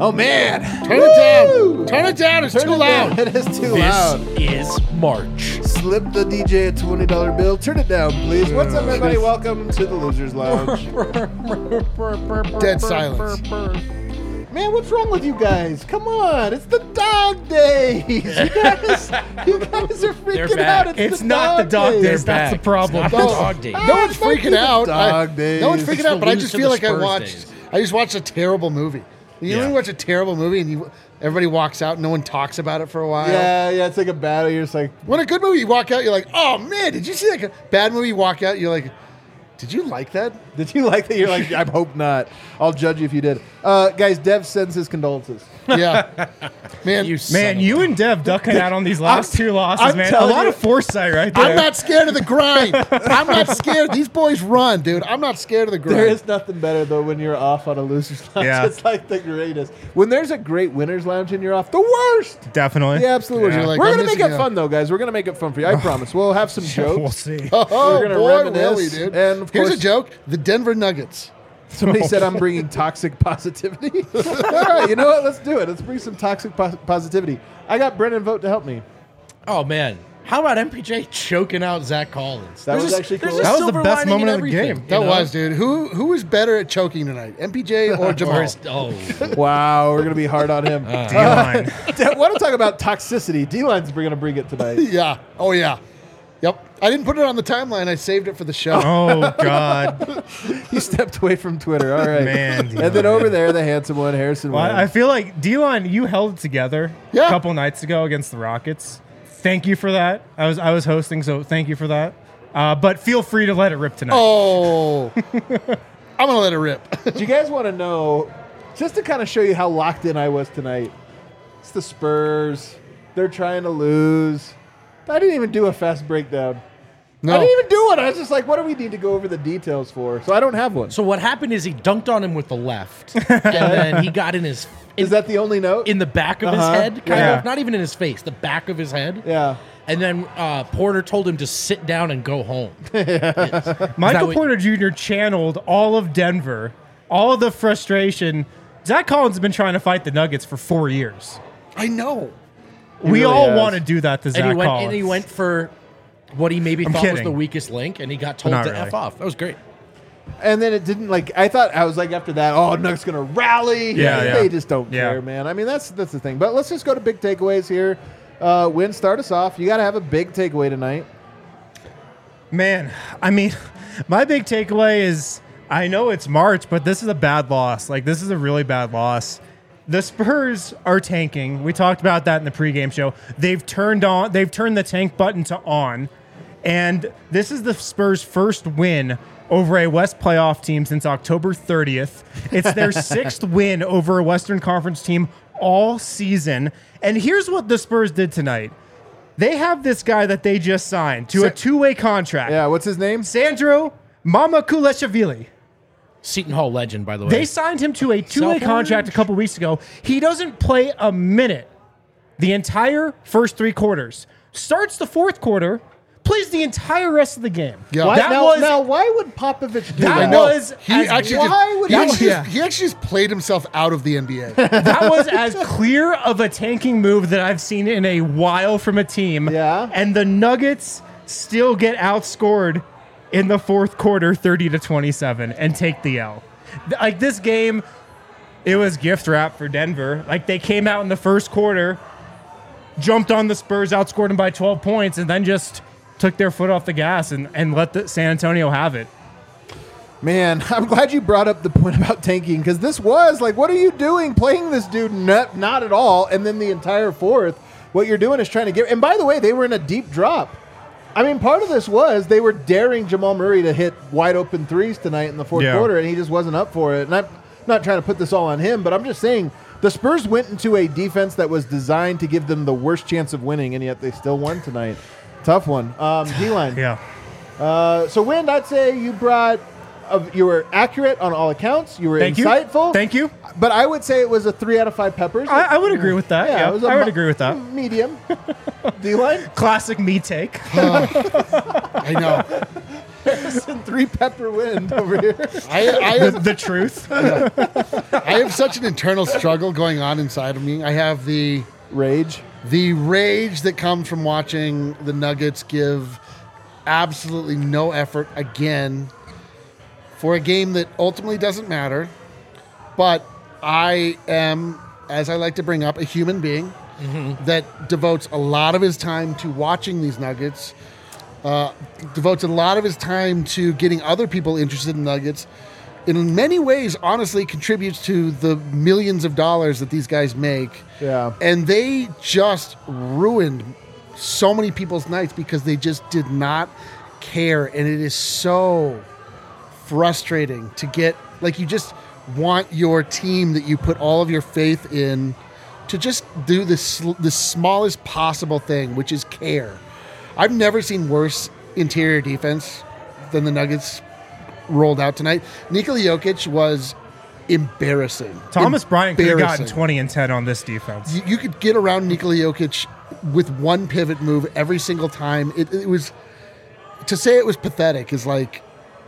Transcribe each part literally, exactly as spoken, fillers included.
Oh, man. Turn Woo! it down. Turn it down. It's Turn too it loud. Down. It is too this loud. This is March. Slip the D J a twenty dollar bill. Turn it down, please. What's up, everybody? Welcome to the Losers Lounge. Dead silence. Man, what's wrong with you guys? Come on. It's the dog days. You guys, you guys are freaking out. It's, it's the not dog the dog days. days. That's the problem. It's not the dog days. No one's freaking out. Dog I, days. no one's freaking It's out, the but I lose just to feel the like I Spurs watched. days. I just watched a terrible movie. You know when you watch a terrible movie and you everybody walks out, no one talks about it for a while. Yeah, yeah. It's like a battle. You're just like, When a good movie, you walk out, you're like, oh man, did you see like a bad movie? You walk out, you're like, did you like that? did you like that? You're like, I hope not. I'll judge you if you did. Uh, guys, Dev sends his condolences. Yeah, man. You Man, you and Dev ducking out on these last two losses, I'm man. A telling lot you- of foresight right there. I'm not scared of the grind. I'm not scared. These boys run, dude. I'm not scared of the grind. There is nothing better though when you're off on a loser's lounge. Yeah. It's like the greatest. When there's a great winner's lounge and you're off, the worst. Definitely. The absolute worst. You're like, We're I'm gonna make missing it out. fun though, guys. We're gonna make it fun for you. I promise. We'll have some jokes. We'll see. Oh, We're gonna boy, reminisce, will we, dude. and of Here's course- a joke: the Denver Nuggets. Somebody said I'm bringing toxic positivity. All right, you know what? Let's do it. Let's bring some toxic pos- positivity. I got Brennan Vogt to help me. Oh, man. How about M P J choking out Zach Collins? That There's was a- actually there's cool. a That was the silver best lining in moment of the everything, game. you That know? was, dude. Who who was better at choking tonight, M P J or Jamal? Or is- oh. Wow, we're gonna be hard on him. Uh, D-line. want to talk about toxicity? D-line's gonna bring it tonight. Yeah. Oh yeah. Yep. I didn't put it on the timeline. I saved it for the show. Oh, God. He stepped away from Twitter. All right, Man, And then over there, the handsome one, Harrison. Well, Wayne. I feel like, D-line, you held it together Yeah. a couple nights ago against the Rockets. Thank you for that. I was I was hosting, so thank you for that. Uh, but feel free to let it rip tonight. Oh. I'm gonna let it rip. Do you guys want to know, just to kind of show you how locked in I was tonight? It's the Spurs. They're trying to lose. I didn't even do a fast breakdown. No. I didn't even do it. I was just like, what do we need to go over the details for? So I don't have one. So what happened is he dunked on him with the left, and then he got in his in, Is that the only note? in the back of Uh-huh. his head, kind Yeah. of, not even in his face, the back of his head. yeah. And then uh, Porter told him to sit down and go home. Michael what- Porter Junior channeled all of Denver, all of the frustration. Zach Collins has been trying to fight the Nuggets for four years. I know. we really all has. want to do that to and Zach he went Collins. and he went for what he maybe I'm thought was kidding. the weakest link, and he got told Not to really. F off. That was great. And then it didn't like I thought I was like after that, oh Nuggets gonna rally. Yeah, They yeah. just don't Yeah. care, man. I mean that's that's the thing. But let's just go to big takeaways here. Uh Win, start us off. You gotta have a big takeaway tonight. Man, I mean, my big takeaway is I know it's March, but this is a bad loss. Like, this is a really bad loss. The Spurs are tanking. We talked about that in the pregame show. They've turned on, they've turned the tank button to on. And this is the Spurs' first win over a West playoff team since October thirtieth. It's their sixth win over a Western Conference team all season. And here's what the Spurs did tonight. They have this guy that they just signed to a Sa- two-way contract. Yeah, what's his name? Sandro Mamakulashvili. Seton Hall legend, by the way. They signed him to a two-way Self-owned? contract a couple weeks ago. He doesn't play a minute the entire first three quarters. Starts the fourth quarter, plays the entire rest of the game. Yeah. Why, That now, was now why would Popovich do that that? know. was He as, actually why just, would he, he- actually yeah. just, he actually just played himself out of the N B A. that was as clear of a tanking move that I've seen in a while from a team. Yeah. And the Nuggets still get outscored in the fourth quarter thirty to twenty-seven and take the L. Like this game, it was gift wrap for Denver. Like they came out in the first quarter, jumped on the Spurs, outscored them by twelve points, and then just took their foot off the gas and, and let the San Antonio have it. Man, I'm glad you brought up the point about tanking because this was like, what are you doing playing this dude? Not, not at all. And then the entire fourth, what you're doing is trying to get. And by the way, they were in a deep drop. I mean, part of this was they were daring Jamal Murray to hit wide open threes tonight in the fourth Yeah. quarter, and he just wasn't up for it. And I'm not trying to put this all on him, but I'm just saying the Spurs went into a defense that was designed to give them the worst chance of winning, and yet they still won tonight. Tough one. Um, D-line. Yeah. Uh, so, Wind, I'd say you brought, uh, you were accurate on all accounts. You were Thank you. insightful. Thank you. But I would say it was a three out of five peppers. I, I would agree with that. Yeah, it was a I would mo- agree with that. Medium. D-line. Classic me take. I know. Three pepper wind over here. I, I, The, have, the truth. I have such an internal struggle going on inside of me. I have the Rage. the rage that comes from watching the Nuggets give absolutely no effort again for a game that ultimately doesn't matter. But I am, as I like to bring up, a human being mm-hmm. that devotes a lot of his time to watching these Nuggets, uh, devotes a lot of his time to getting other people interested in Nuggets. In many ways, honestly, contributes to the millions of dollars that these guys make. Yeah. And they just ruined so many people's nights because they just did not care. And it is so frustrating to get, like, you just want your team that you put all of your faith in to just do this the smallest possible thing, which is care. I've never seen worse interior defense than the Nuggets rolled out tonight. Nikola Jokic was embarrassing. Thomas Bryant could have gotten Embarrassing. twenty and ten on this defense. You, you could get around Nikola Jokic with one pivot move every single time. It, it was, to say it was pathetic is like,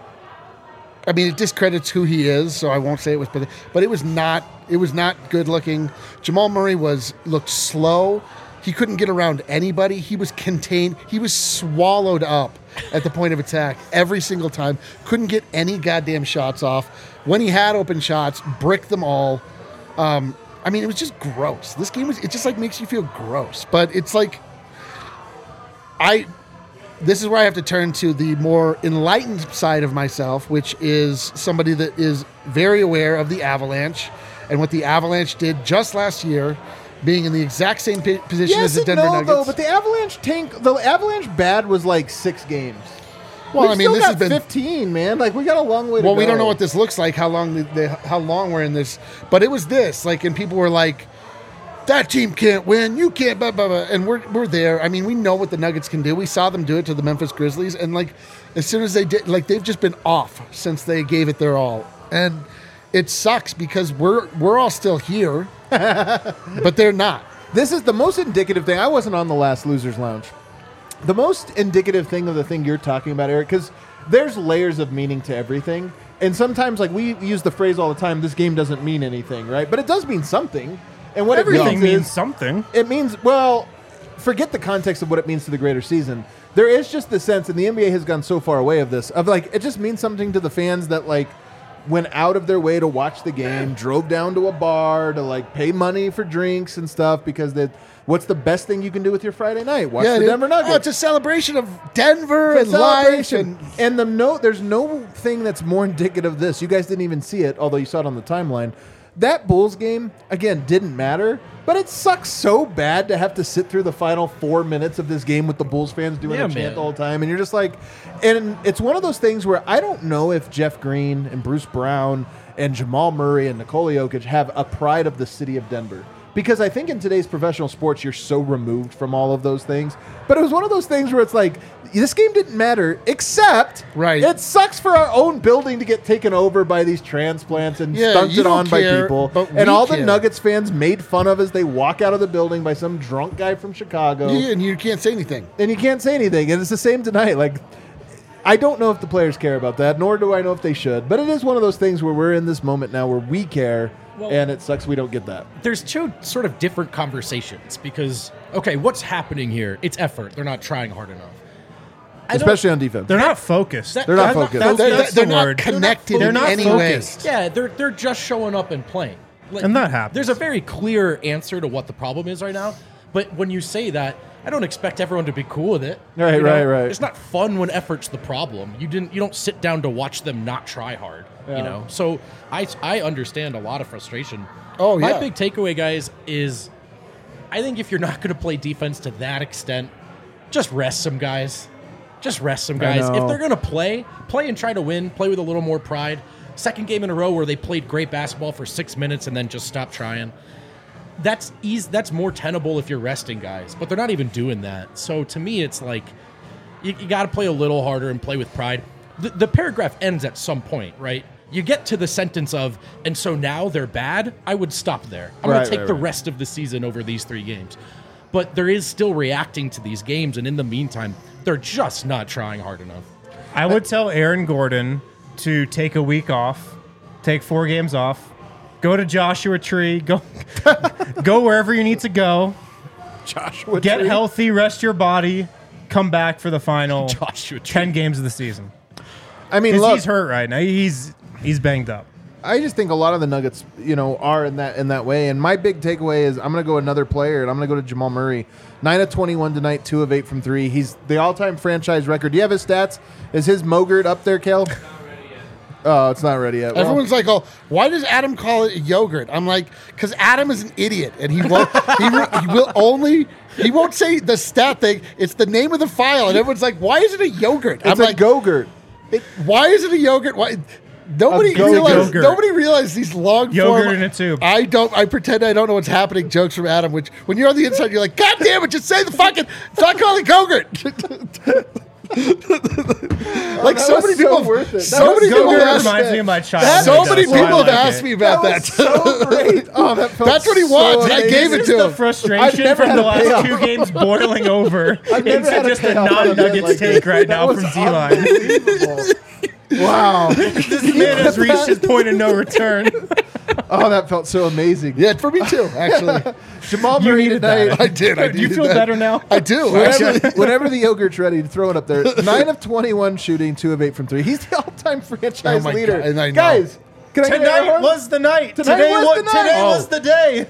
I mean, it discredits who he is, so I won't say it was pathetic, but it was not, it was not good looking. Jamal Murray was, looked slow. He couldn't get around anybody. He was contained. He was swallowed up at the point of attack every single time. Couldn't get any goddamn shots off. When he had open shots, bricked them all. Um, I mean, it was just gross. This game was, it just like makes you feel gross. But it's like, I, this is where I have to turn to the more enlightened side of myself, which is somebody that is very aware of the Avalanche and what the Avalanche did just last year, being in the exact same p- position Yes as the and Denver no, Nuggets. though, but the Avalanche tank, the Avalanche bad was like six games. Well, We've I mean, still this got has been fifteen, man. Like, we got a long way to well, go. we don't know what this looks like, how long they, they, how long we're in this, but it was this, like, and people were like, that team can't win, you can't, blah, blah, blah. And we're we're there. I mean, we know what the Nuggets can do. We saw them do it to the Memphis Grizzlies, and like, as soon as they did, like, they've just been off since they gave it their all, and it sucks because we're we're all still here, but they're not. This is the most indicative thing. I wasn't on the last Losers Lounge. The most indicative thing of the thing you're talking about, Eric, because there's layers of meaning to everything. And sometimes, like, we use the phrase all the time, this game doesn't mean anything, right? But it does mean something. And what Everything it means, means is, something. It means, well, forget the context of what it means to the greater season. There is just the sense, and the N B A has gone so far away of this, of like, it just means something to the fans that, like, went out of their way to watch the game, drove down to a bar to, like, pay money for drinks and stuff because they, what's the best thing you can do with your Friday night? Watch the dude. Denver Nuggets. Oh, it's a celebration of Denver It's and a life. celebration. And And the no, there's no thing that's more indicative of this. You guys didn't even see it, although you saw it on the timeline. That Bulls game, again, didn't matter, but it sucks so bad to have to sit through the final four minutes of this game with the Bulls fans doing Yeah, a chant man. the whole time. And you're just like, and it's one of those things where I don't know if Jeff Green and Bruce Brown and Jamal Murray and Nikola Jokic have a pride of the city of Denver. Because I think in today's professional sports, you're so removed from all of those things. But it was one of those things where it's like, this game didn't matter, except Right. it sucks for our own building to get taken over by these transplants and Yeah, you stunted don't on by care, people. but And we all the care. Nuggets fans made fun of as they walk out of the building by some drunk guy from Chicago. Yeah, and you can't say anything. And you can't say anything. And it's the same tonight. Like, I don't know if the players care about that, nor do I know if they should. But it is one of those things where we're in this moment now where we care, Well- and it sucks we don't get that. There's two sort of different conversations because, okay, what's happening here? It's effort. They're not trying hard enough. I don't- Especially on defense. They're not focused. That- They're not that's focused. that's- They're, that's they're the not word. connected They're in not any way. focused. Yeah, they're they're just showing up and playing. Like, And that happens. There's a very clear answer to what the problem is right now. But when you say that, I don't expect everyone to be cool with it. Right, you know? right, right. It's not fun when effort's the problem. You didn't. You don't sit down to watch them not try hard. Yeah. You know. So I I understand a lot of frustration. Oh, My yeah. big takeaway, guys, is I think if you're not going to play defense to that extent, just rest some guys. Just rest some guys. know. If they're going to play, play and try to win. Play with a little more pride. Second game in a row where they played great basketball for six minutes and then just stopped trying. That's easy. That's more tenable if you're resting guys, but they're not even doing that. So to me, it's like you, you got to play a little harder and play with pride. The, the paragraph ends at some point, right? You get to the sentence of, and so now they're bad. I would stop there. I'm going Right, to take right, the right. rest of the season over these three games. But there is still reacting to these games, and in the meantime, they're just not trying hard enough. I would tell Aaron Gordon to take a week off, take four games off, go to Joshua Tree, go go wherever you need to go, Joshua get Tree. healthy, rest your body, come back for the final Joshua Tree. ten games of the season. I mean, Because look, he's hurt right now. He's he's banged up. I just think a lot of the Nuggets, you know, are in that in that way. And my big takeaway is I'm going to go another player, and I'm going to go to Jamal Murray. nine of twenty-one tonight, two of eight from three. He's the all-time franchise record. Do you have his stats? Is his Mogert up there, Kel? Oh, it's not ready yet. Well, Everyone's like, "Oh, why does Adam call it yogurt?" I'm like, "Because Adam is an idiot, and he won't. he, re- he will only. He won't say the stat thing. It's the name of the file, and everyone's like, "Why is it a yogurt?" it's I'm a like, Gogurt. "Why is it a yogurt? Why?" Nobody A go- realized. yogurt. Nobody realized these long Yogurt form. in a tube. I don't. I pretend I don't know what's happening. Jokes from Adam. Which when you're on the inside, you're like, "God damn it! Just say the fucking. Stop calling it yogurt." Like that so was many so people. worth it. That So was many so people worth have it. asked. reminds me of my childhood. So though, many so I people have like asked it. me about That that. was so great. Oh, that felt That's what he so wants. I amazing. gave it This to is the him. I've frustration never from had the a last payoff. two games boiling over I've never into had a just a payoff on a bet non-Nuggets like take this. right That now was from D-Line. unbelievable. Wow. This man has reached his point of no return. Oh, that felt so amazing. Yeah, for me too. Actually, Jamal You Murray needed tonight. that. I did. I Do you needed feel that. better now? I do. Whenever, Actually, whenever the yogurt's ready, to throw it up there. Nine of twenty-one shooting, two of eight from three. He's the all-time franchise Oh my leader. God, and I know. Guys, can I get an air Tonight horn? was the night. Tonight today was wa- the night. Today Oh. was the day.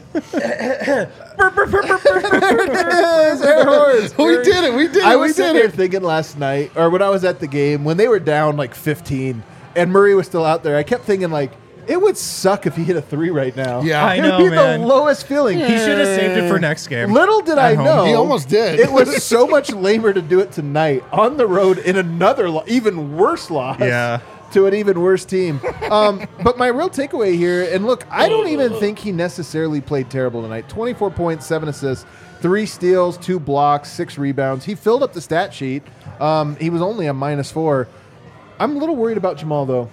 Yes, air horns. we did it. We did it. I we was sitting did there it. thinking last night, or when I was at the game, when they were down like fifteen, and Murray was still out there, I kept thinking like, it would suck if he hit a three right now. Yeah. I it know, would be man. the lowest feeling. He should have saved it for next game. Little did At I home. know. He almost did. It was so much lamer to do it tonight on the road in another, lo- even worse loss. Yeah. To an even worse team. Um, but my real takeaway here, and look, I don't even think he necessarily played terrible tonight. twenty-four points, seven assists, three steals, two blocks, six rebounds. He filled up the stat sheet. Um, he was only a minus four. I'm a little worried about Jamal, though.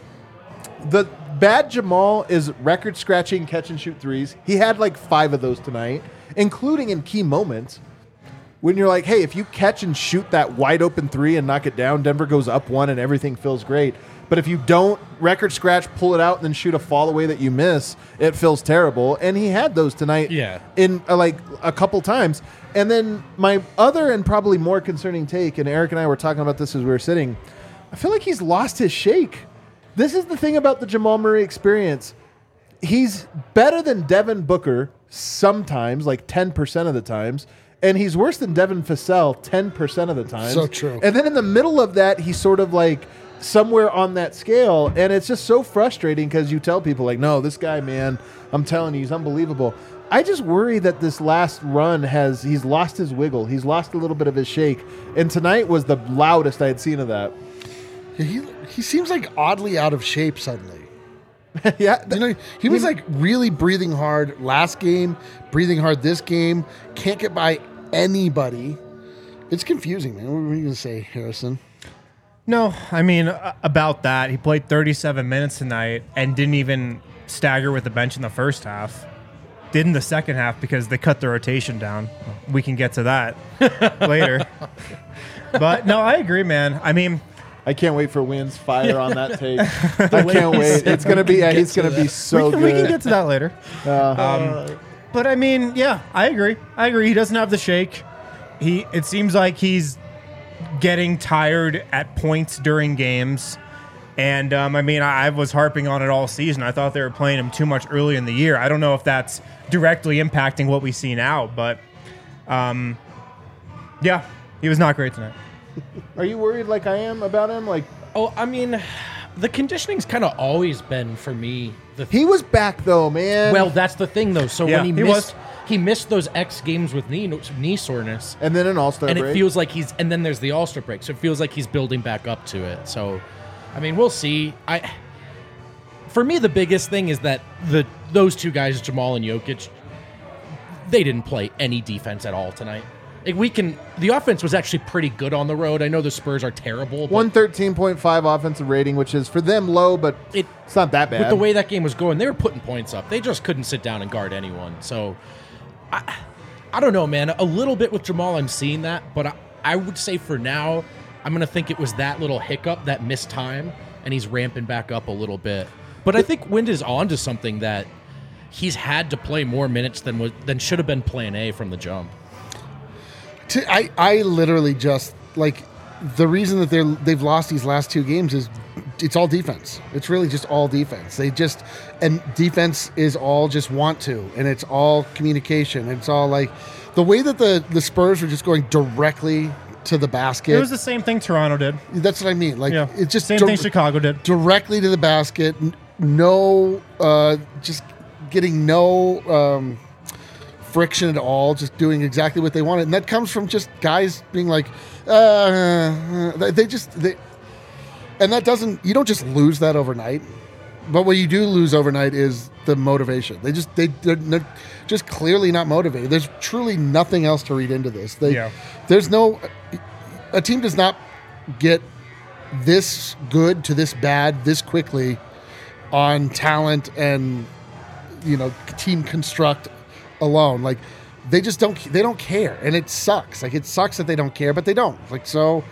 The bad Jamal is record scratching catch and shoot threes. He had like five of those tonight, including in key moments. When you're like, hey, if you catch and shoot that wide open three and knock it down, Denver goes up one and everything feels great. But if you don't record scratch, pull it out, and then shoot a fall away that you miss, it feels terrible. And he had those tonight Yeah. in uh, like a couple times. And then my other and probably more concerning take, and Eric and I were talking about this as we were sitting, I feel like he's lost his shake. This is the thing about the Jamal Murray experience. He's better than Devin Booker sometimes, like ten percent of the times. And he's worse than Devin Vassell ten percent of the time. So true. And then in the middle of that, he's sort of like somewhere on that scale. And it's just so frustrating because you tell people like, no, this guy, man, I'm telling you, he's unbelievable. I just worry that this last run has, he's lost his wiggle. He's lost a little bit of his shake. And tonight was the loudest I had seen of that. He he seems like oddly out of shape suddenly. yeah. You know, he was like really breathing hard last game, breathing hard this game. Can't get by anybody. It's confusing, man. What were you gonna say, Harrison? No, I mean, uh, about that, he played thirty-seven minutes tonight and didn't even stagger with the bench in the first half. Did in the second half because they cut the rotation down. We can get to that later. But no, I agree, man. I mean, I can't wait for Wynn's fire on that take. I can't wait. It's going to be, yeah, he's going to be so we, can, good. we can get to that later. Uh, Um, but I mean, yeah, I agree. I agree. He doesn't have the shake. He. It seems like he's getting tired at points during games. And, um, I mean, I, I was harping on it all season. I thought they were playing him too much early in the year. I don't know if that's directly impacting what we see now, but, um, yeah, he was not great tonight. Are you worried like I am about him? Like, Oh, I mean, the conditioning's kind of always been for me the he was back though, man. well. That's the thing though. So Yeah, when he, he missed, was. he missed those X games with knee knee soreness, and then an all-star and break. it feels like he's. And then there's the All Star break, so it feels like he's building back up to it. So, I mean, we'll see. I, for me, the biggest thing is that the those two guys, Jamal and Jokic, they didn't play any defense at all tonight. Like we can, the offense was actually pretty good on the road. I know the Spurs are terrible, but one thirteen point five offensive rating, which is for them low, but It- it's not that bad. with the way that game was going, they were putting points up. They just couldn't sit down and guard anyone. So, I, I don't know, man. A little bit with Jamal, I'm seeing that, but I, I would say for now, I'm going to think it was that little hiccup, that missed time, and he's ramping back up a little bit. But I think Wind is on to something that he's had to play more minutes than was, than should have been plan A from the jump. To, I, I literally just, like, the reason that they're, they've lost these last two games is it's all defense. It's really just all defense. They just, and defense is all just want to, and it's all communication. It's all like, the way that the, the Spurs were just going directly to the basket. It was the same thing Toronto did. That's what I mean. Like, Yeah. it's just Same dir- thing Chicago did. directly to the basket. n- No, uh, just getting no um, friction at all. Just doing exactly what they wanted, and that comes from just guys being like, uh, they they just they, and that doesn't. You don't just lose that overnight. But what you do lose overnight is the motivation. They just they they're, they're just clearly not motivated. There's truly nothing else to read into this. They, Yeah. There's no a team does not get this good to this bad this quickly on talent and you know team construct alone. Like they just don't they don't care, and it sucks. Like it sucks that they don't care, but they don't. Like so,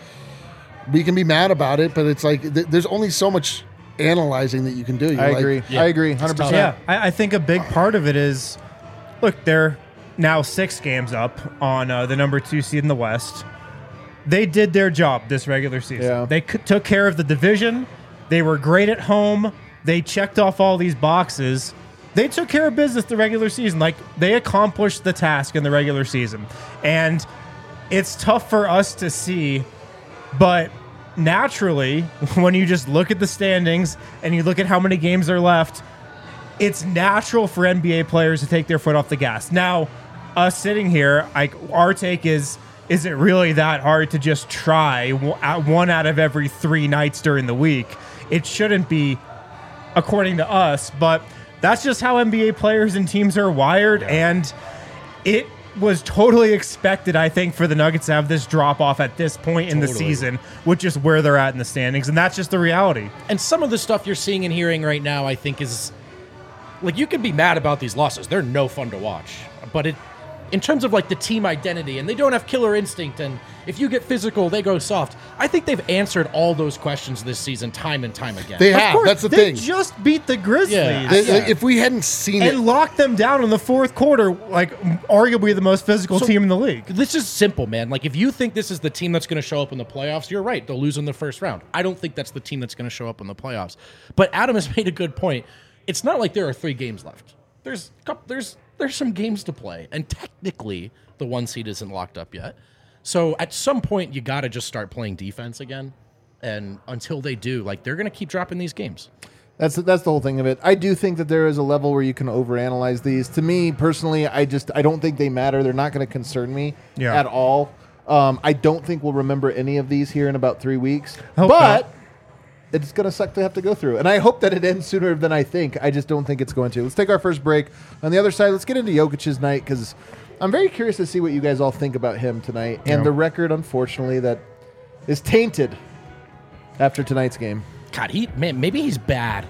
we can be mad about it, but it's like th- there's only so much analyzing that you can do. You're I like, agree. Yeah. I agree. one hundred percent. Yeah, I, I think a big part of it is, look, they're now six games up on uh, the number two seed in the West. They did their job this regular season. Yeah. They c- took care of the division. They were great at home. They checked off all these boxes. They took care of business the regular season. Like, they accomplished the task in the regular season. And it's tough for us to see, but naturally, when you just look at the standings and you look at how many games are left, it's natural for N B A players to take their foot off the gas. Now, us sitting here, like, our take is, is it really that hard to just try one out of every three nights during the week? It shouldn't be, according to us, but that's just how N B A players and teams are wired, and it was totally expected, I think, for the Nuggets to have this drop-off at this point in the Totally. season, which is where they're at in the standings, and that's just the reality. And some of the stuff you're seeing and hearing right now, I think, is like you can be mad about these losses. They're no fun to watch. But it, in terms of like the team identity, and they don't have killer instinct, and if you get physical, they go soft. I think they've answered all those questions this season, time and time again. They Of have. course, That's the they thing. just beat the Grizzlies. Yeah. They- Yeah. If we hadn't seen it, And locked them down in the fourth quarter, like arguably the most physical So- team in the league. This is simple, man. Like, if you think this is the team that's going to show up in the playoffs, you're right. They'll lose in the first round. I don't think that's the team that's going to show up in the playoffs. But Adam has made a good point. It's not like there are three games left. There's a couple, there's there's some games to play, and technically the one seed isn't locked up yet. So at some point, you got to just start playing defense again. And until they do, like, they're going to keep dropping these games. That's that's the whole thing of it. I do think that there is a level where you can overanalyze these. To me personally, I just I don't think they matter. They're not going to concern me Yeah. at all. Um, I don't think we'll remember any of these here in about three weeks. Hope but not. it's going to suck to have to go through. And I hope that it ends sooner than I think. I just don't think it's going to. Let's take our first break. On the other side, let's get into Jokic's night because I'm very curious to see what you guys all think about him tonight and Yeah. the record, unfortunately, that is tainted after tonight's game. God, he man, maybe he's bad.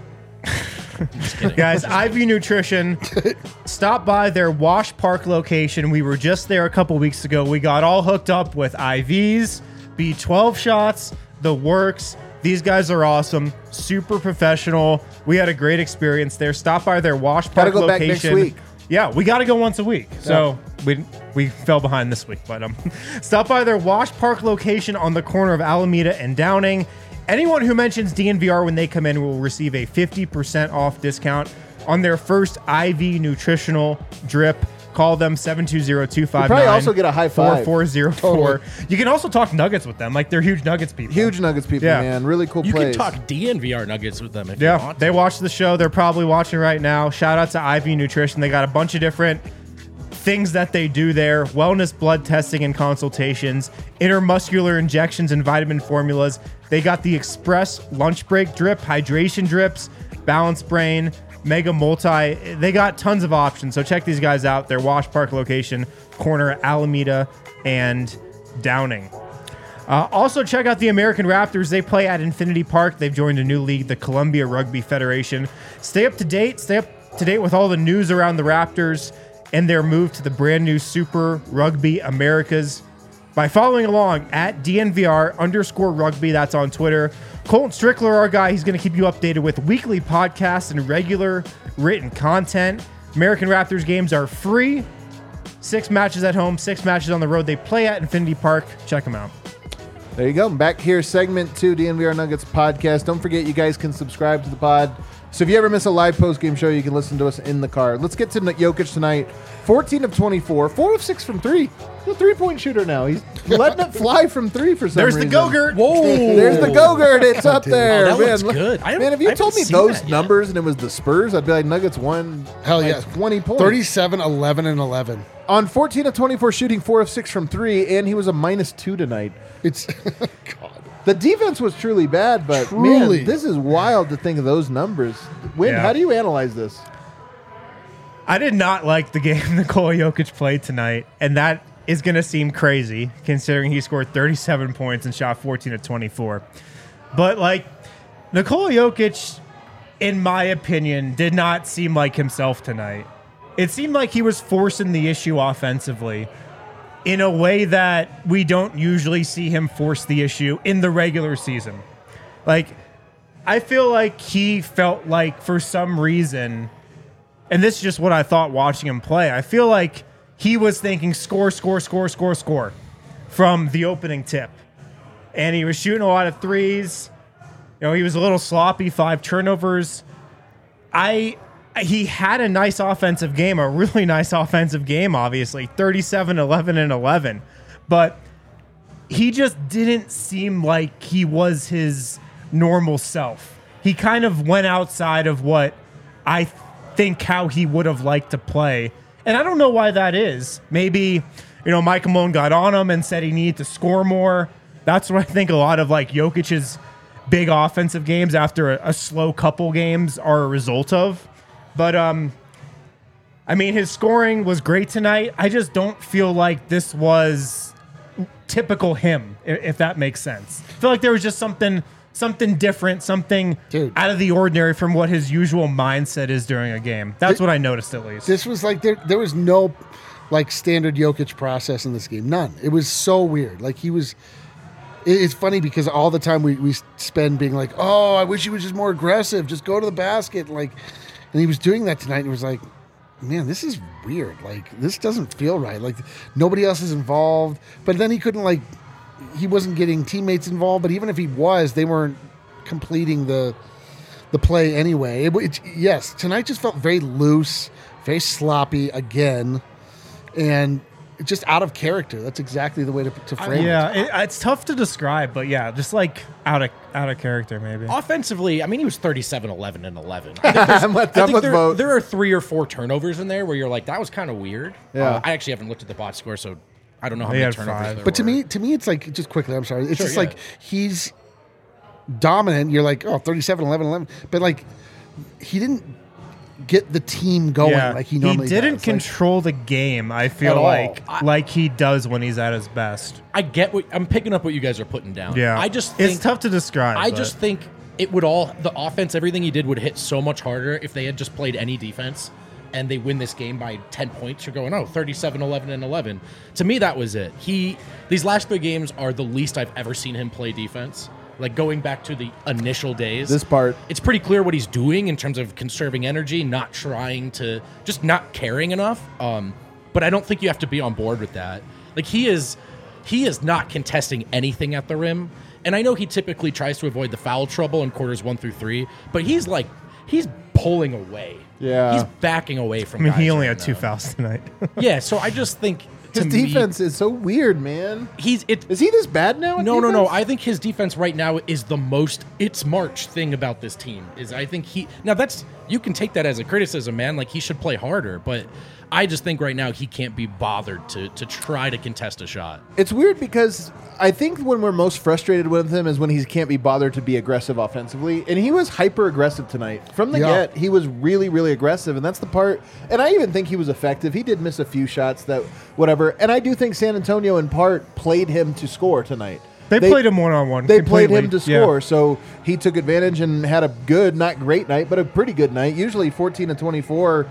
Just kidding. Guys, I V Nutrition, stop by their Wash Park location. We were just there a couple weeks ago. We got all hooked up with I Vs, B twelve shots, the works. These guys are awesome, super professional. We had a great experience there. Stop by their Wash Park Gotta go back location. next week. Yeah, we got to go once a week. So we we fell behind this week, but um, stop by their Wash Park location on the corner of Alameda and Downing. Anyone who mentions D N V R when they come in will receive a fifty percent off discount on their first I V nutritional drip. Call them seven two zero, two five nine, probably also get a high five. four four zero four. You can also talk Nuggets with them. Like, they're huge Nuggets people. Huge Nuggets people, Yeah. man. Really cool You plays. can talk D N V R Nuggets with them if you Yeah, want. they watch the show. They're probably watching right now. Shout out to I V Nutrition. They got a bunch of different things that they do there: wellness, blood testing and consultations, intermuscular injections and vitamin formulas. They got the Express lunch break drip, hydration drips, Balance Brain, Mega Multi. They got tons of options. So check these guys out. Their Wash Park location, corner Alameda and Downing. Uh, also, check out the American Raptors. They play at Infinity Park. They've joined a new league, the Columbia Rugby Federation. Stay up to date. Stay up to date with all the news around the Raptors and their move to the brand new Super Rugby Americas by following along at D N V R underscore rugby. That's on Twitter. Colton Strickler, our guy, he's going to keep you updated with weekly podcasts and regular written content. American Raptors games are free. Six matches at home, six matches on the road. They play at Infinity Park. Check them out. There you go. Back here, segment two, D N V R Nuggets podcast. Don't forget, you guys can subscribe to the pod. So if you ever miss a live post-game show, you can listen to us in the car. Let's get to Jokic tonight. fourteen of twenty-four, four of six from three. He's a three-point shooter now. He's letting it fly from three for some There's reason. the Go-Gurt. Whoa. There's the Go-Gurt. It's up there. Oh, that man, looks look- good. I man, if haven't- you I told me haven't seen those that yet. numbers and it was the Spurs, I'd be like, Nuggets won Hell like yeah. twenty points. thirty-seven, eleven, and eleven. On fourteen of twenty-four shooting, four of six from three, and he was a minus two tonight. It's God. The defense was truly bad, but Truly. man, this is wild to think of those numbers. Win, Yeah. how do you analyze this? I did not like the game Nikola Jokic played tonight, and that is going to seem crazy considering he scored thirty-seven points and shot fourteen of twenty-four. But, like, Nikola Jokic, in my opinion, did not seem like himself tonight. It seemed like he was forcing the issue offensively in a way that we don't usually see him force the issue in the regular season. Like, I feel like he felt like for some reason, and this is just what I thought watching him play, I feel like he was thinking score, score, score, score, score from the opening tip. And he was shooting a lot of threes. You know, he was a little sloppy, five turnovers. I he had a nice offensive game, a really nice offensive game, obviously, thirty-seven, eleven, and eleven. But he just didn't seem like he was his normal self. He kind of went outside of what I think how he would have liked to play. And I don't know why that is. Maybe, you know, Michael Malone got on him and said he needed to score more. That's what I think a lot of like Jokic's big offensive games after a, a slow couple games are a result of. But, um, I mean, his scoring was great tonight. I just don't feel like this was typical him, i- if that makes sense. I feel like there was just something something different, something Dude. out of the ordinary from what his usual mindset is during a game. That's what I noticed, at least. This was like there there was no like standard Jokic process in this game. None. It was so weird. Like he was it- it's funny because all the time we, we spend being like, oh, I wish he was just more aggressive. Just go to the basket. Like and he was doing that tonight and it was like, man, this is weird. Like this doesn't feel right. Like nobody else is involved. But then he couldn't like he wasn't getting teammates involved, but even if he was, they weren't completing the the play anyway. It, it, yes, tonight just felt very loose, very sloppy again, and just out of character. That's exactly the way to, to frame it. Yeah, it, it's tough to describe, but yeah, just like out of out of character, maybe. Offensively, I mean, he was thirty-seven, eleven, and eleven. I think, there's- I'm with- I I'm think with there, both. there are three or four turnovers in there where you're like, that was kind of weird. Yeah. Uh, I actually haven't looked at the box score, so I don't know how He many had turnovers five. there But to were. me, to me, it's like just quickly. I'm sorry. It's Sure, just yeah. like he's dominant. You're like, oh, thirty-seven, eleven, eleven. But like, he didn't get the team going Yeah, like he normally didn't does. Like, control the game. I At feel all. like I- like he does when he's at his best. I get what I'm picking up what you guys are putting down. Yeah, I just think, it's tough to describe. I but- just think it would all the offense, everything he did would hit so much harder if they had just played any defense and they win this game by ten points. You're going, oh, thirty-seven, eleven, and eleven. To me, that was it. He these last three games are the least I've ever seen him play defense. Like going back to the initial days. This part. It's pretty clear what he's doing in terms of conserving energy, not trying to, just not caring enough. Um, but I don't think you have to be on board with that. Like he is, he is not contesting anything at the rim. And I know he typically tries to avoid the foul trouble in quarters one through three, but he's like, he's pulling away. Yeah. He's backing away from I mean, he guys only right had two now. fouls tonight. Yeah, so I just think His to me, defense is so weird, man. he's it. Is he this bad now? at No, no, no. defense? I think his defense right now is the most it's March thing about this team. Is I think he now that's you can take that as a criticism, man. Like he should play harder, but I just think right now he can't be bothered to to try to contest a shot. It's weird because I think when we're most frustrated with him is when he can't be bothered to be aggressive offensively. And he was hyper aggressive tonight. From the Yeah. get, he was really, really aggressive. And that's the part. And I even think he was effective. He did miss a few shots that, whatever. And I do think San Antonio, in part, played him to score tonight. They, played him one on one. They played him to score, so he took advantage and had a good, not great night, but a pretty good night. Usually fourteen to twenty-four,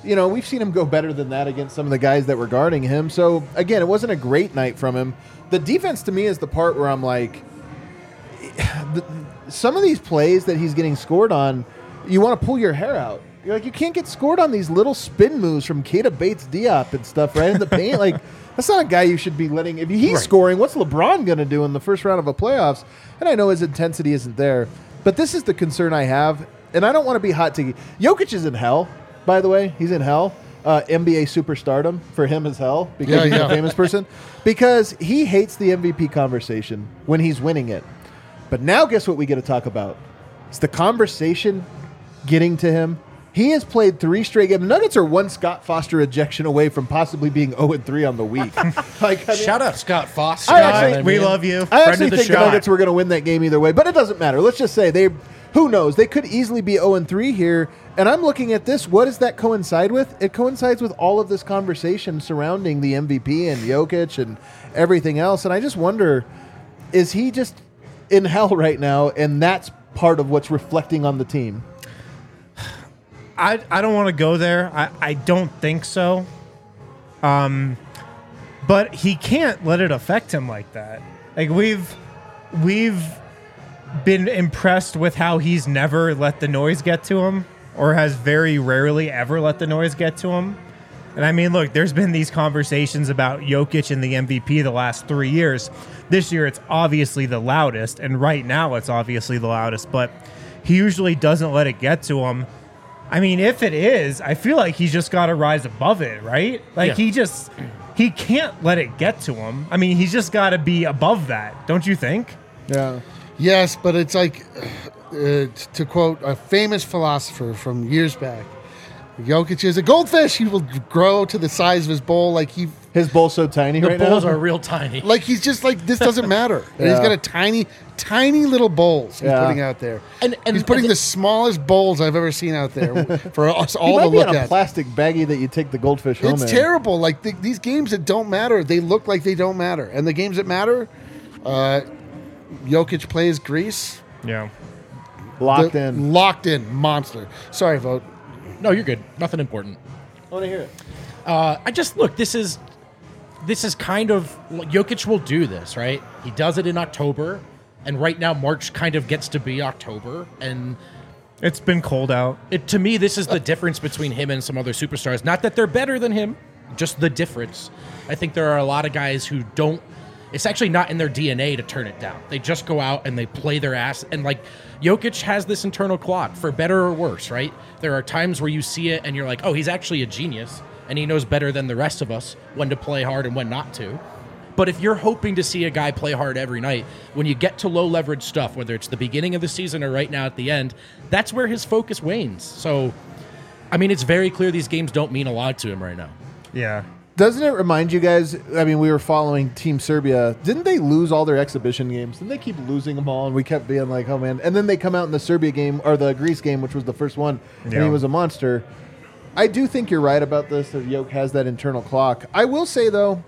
you know, we've seen him go better than that against some of the guys that were guarding him. So, again, it wasn't a great night from him. The defense, to me, is the part where I'm like, the, some of these plays that he's getting scored on, you want to pull your hair out. You're like, you can't get scored on these little spin moves from Keita Bates-Diop and stuff right in the paint. Like, that's not a guy you should be letting. If he's Right. scoring, what's LeBron going to do in the first round of a playoffs? And I know his intensity isn't there. But this is the concern I have. And I don't want to be hot take. Jokic is in hell, by the way. He's in hell. Uh, N B A superstardom for him is hell because Yeah, he's yeah. a famous person. Because he hates the M V P conversation when he's winning it. But now guess what we get to talk about? It's the conversation getting to him. He has played three straight games. The Nuggets are one Scott Foster ejection away from possibly being oh and three on the week. like, I mean, Shout out Scott Foster. I you know actually- what I we mean? love you. I Friend actually of the think the shot. Nuggets were going to win that game either way, but it doesn't matter. Let's just say they, who knows? They could easily be oh and three here. And I'm looking at this. What does that coincide with? It coincides with all of this conversation surrounding the M V P and Jokic and everything else. And I just wonder, is he just in hell right now? And that's part of what's reflecting on the team. I, I don't want to go there. I, I don't think so. Um, but he can't let it affect him like that. Like we've we've been impressed with how he's never let the noise get to him, or has very rarely ever let the noise get to him. And I mean, look, there's been these conversations about Jokic and the M V P the last three years. This year, it's obviously the loudest, and right now, it's obviously the loudest. But he usually doesn't let it get to him. I mean, if it is, I feel like he's just got to rise above it, right? Like Yeah. he just he can't let it get to him. I mean, he's just got to be above that, don't you think? Yeah. Yes, but it's like, uh, to quote a famous philosopher from years back, Jokic is a goldfish. He will grow to the size of his bowl like he, His bowl's so tiny The right Bulls now. are real tiny. like he's just like, this doesn't matter. And he's Yeah. got a tiny, tiny little bowls he's Yeah. putting out there. And- and- he's putting and the smallest bowls I've ever seen out there for us He all might to be look in a at. plastic baggie that you take the goldfish home It's in. terrible. Like the, these games that don't matter, they look like they don't matter. And the games that matter, uh, Jokic plays Greece. Yeah. Locked The- in. Locked in. Monster. Sorry, Vote. No, you're good. Nothing important. I want to hear it. Uh, I just look. This is this is kind of Jokic will do this, right? He does it in October, and right now March kind of gets to be October, and It's been cold out. it to me this is the difference between him and some other superstars. Not that they're better than him, just the difference. I think there are a lot of guys who don't. It's actually not in their D N A to turn it down. They just go out and they play their ass. And like Jokic has this internal clock, for better or worse, right? There are times where you see it and you're like, oh, he's actually a genius. And he knows better than the rest of us when to play hard and when not to. But if you're hoping to see a guy play hard every night, when you get to low leverage stuff, whether it's the beginning of the season or right now at the end, that's where his focus wanes. So, I mean, it's very clear these games don't mean a lot to him right now. Yeah. Doesn't it remind you guys? I mean, we were following Team Serbia. Didn't they lose all their exhibition games? Didn't they keep losing them all? And we kept being like, oh, man. And then they come out in the Serbia game or the Greece game, which was the first one, and Yeah. he was a monster. I do think you're right about this, that Jokic has that internal clock. I will say, though,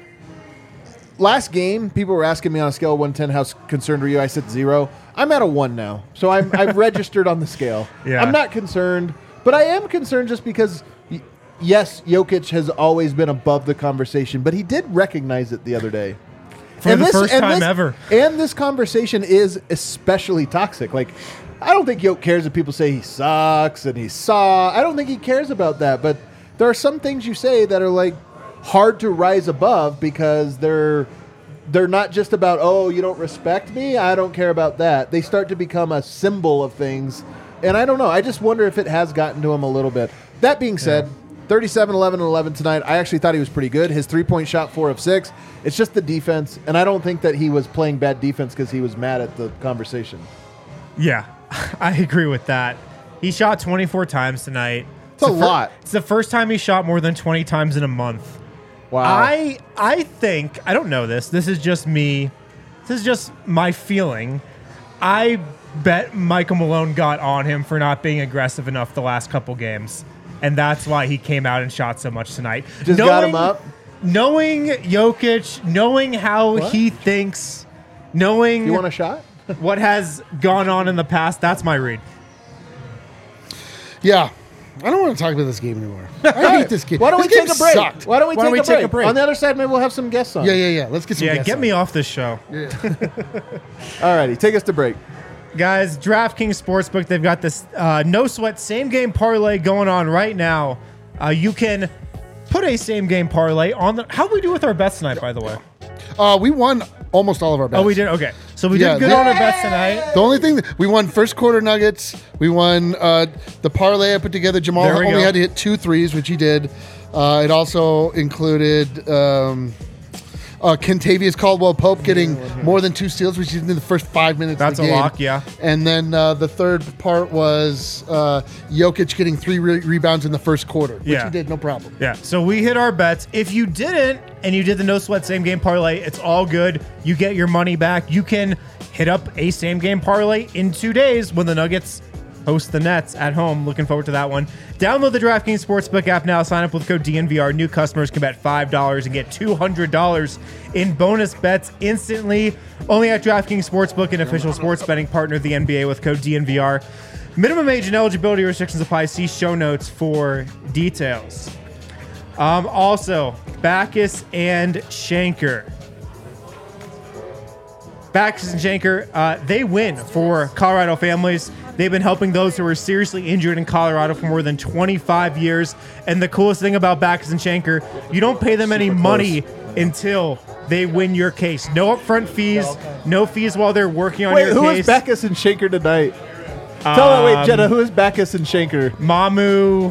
last game, people were asking me on a scale of one to ten, how concerned were you? I said zero. I'm at a one now. So I'm, I've registered on the scale. Yeah. I'm not concerned, but I am concerned just because, y- yes, Jokic has always been above the conversation, but he did recognize it the other day. For the first time ever. And this conversation is especially toxic. Like, I don't think Jokic cares if people say he sucks and he saw. I don't think he cares about that. But there are some things you say that are like hard to rise above because they're they're not just about, oh, you don't respect me. I don't care about that. They start to become a symbol of things. And I don't know. I just wonder if it has gotten to him a little bit. That being said, thirty-seven, eleven, and eleven tonight. I actually thought he was pretty good. His three-point shot, four of six. It's just the defense. And I don't think that he was playing bad defense because he was mad at the conversation. Yeah, I agree with that. He shot twenty-four times tonight. It's a the fir- lot. It's the first time he shot more than twenty times in a month. Wow. I I think I don't know this. This is just me. This is just my feeling. I bet Michael Malone got on him for not being aggressive enough the last couple games, and that's why he came out and shot so much tonight. Just got him up? Knowing Jokic, knowing how What? he thinks, knowing You want a shot? what has gone on in the past, that's my read. Yeah. I don't want to talk about this game anymore. I hate this game. Why don't we This take game a break? sucked. Why don't we, Why take, don't we a take break? a break? On the other side, maybe we'll have some guests on. Yeah, yeah, yeah. Let's get some Yeah, guests get on. me off this show. All righty, take us to break. Guys, DraftKings Sportsbook, they've got this uh, no sweat same game parlay going on right now. Uh, you can put a same game parlay on the. How did we do with our bets tonight, by the way? Uh, we won almost all of our bets. Oh, we did? Okay. So we Yeah, did good they- on our bets tonight. The only thing that we won first quarter Nuggets. We won uh, the parlay I put together. Jamal There we only go. had to hit two threes, which he did. Uh, it also included um, uh, Kentavious Caldwell-Pope getting more than two steals, which he did in the first five minutes That's of a the game. lock, yeah. And then uh, the third part was uh, Jokic getting three re- rebounds in the first quarter, which Yeah. he did, no problem. Yeah, so we hit our bets. If you didn't and you did the no sweat same game parlay, it's all good. You get your money back. You can hit up a same game parlay in two days when the Nuggets host the Nets at home. Looking forward to that one. Download the DraftKings Sportsbook app now. Sign up with code D N V R. New customers can bet five dollars and get two hundred dollars in bonus bets instantly. Only at DraftKings Sportsbook, an official sports betting partner of the N B A with code D N V R. Minimum age and eligibility restrictions apply. See show notes for details. Um, also, Backus and Shanker. Backus and Shanker, uh, they win for Colorado families. They've been helping those who are seriously injured in Colorado for more than twenty-five years. And the coolest thing about Backus and Shanker, you don't pay them any money until they win your case. No upfront fees, no fees while they're working on Wait, your who case. is Backus and Shanker tonight? Tell her, wait, Jenna, who is Backus and Shanker? Mamu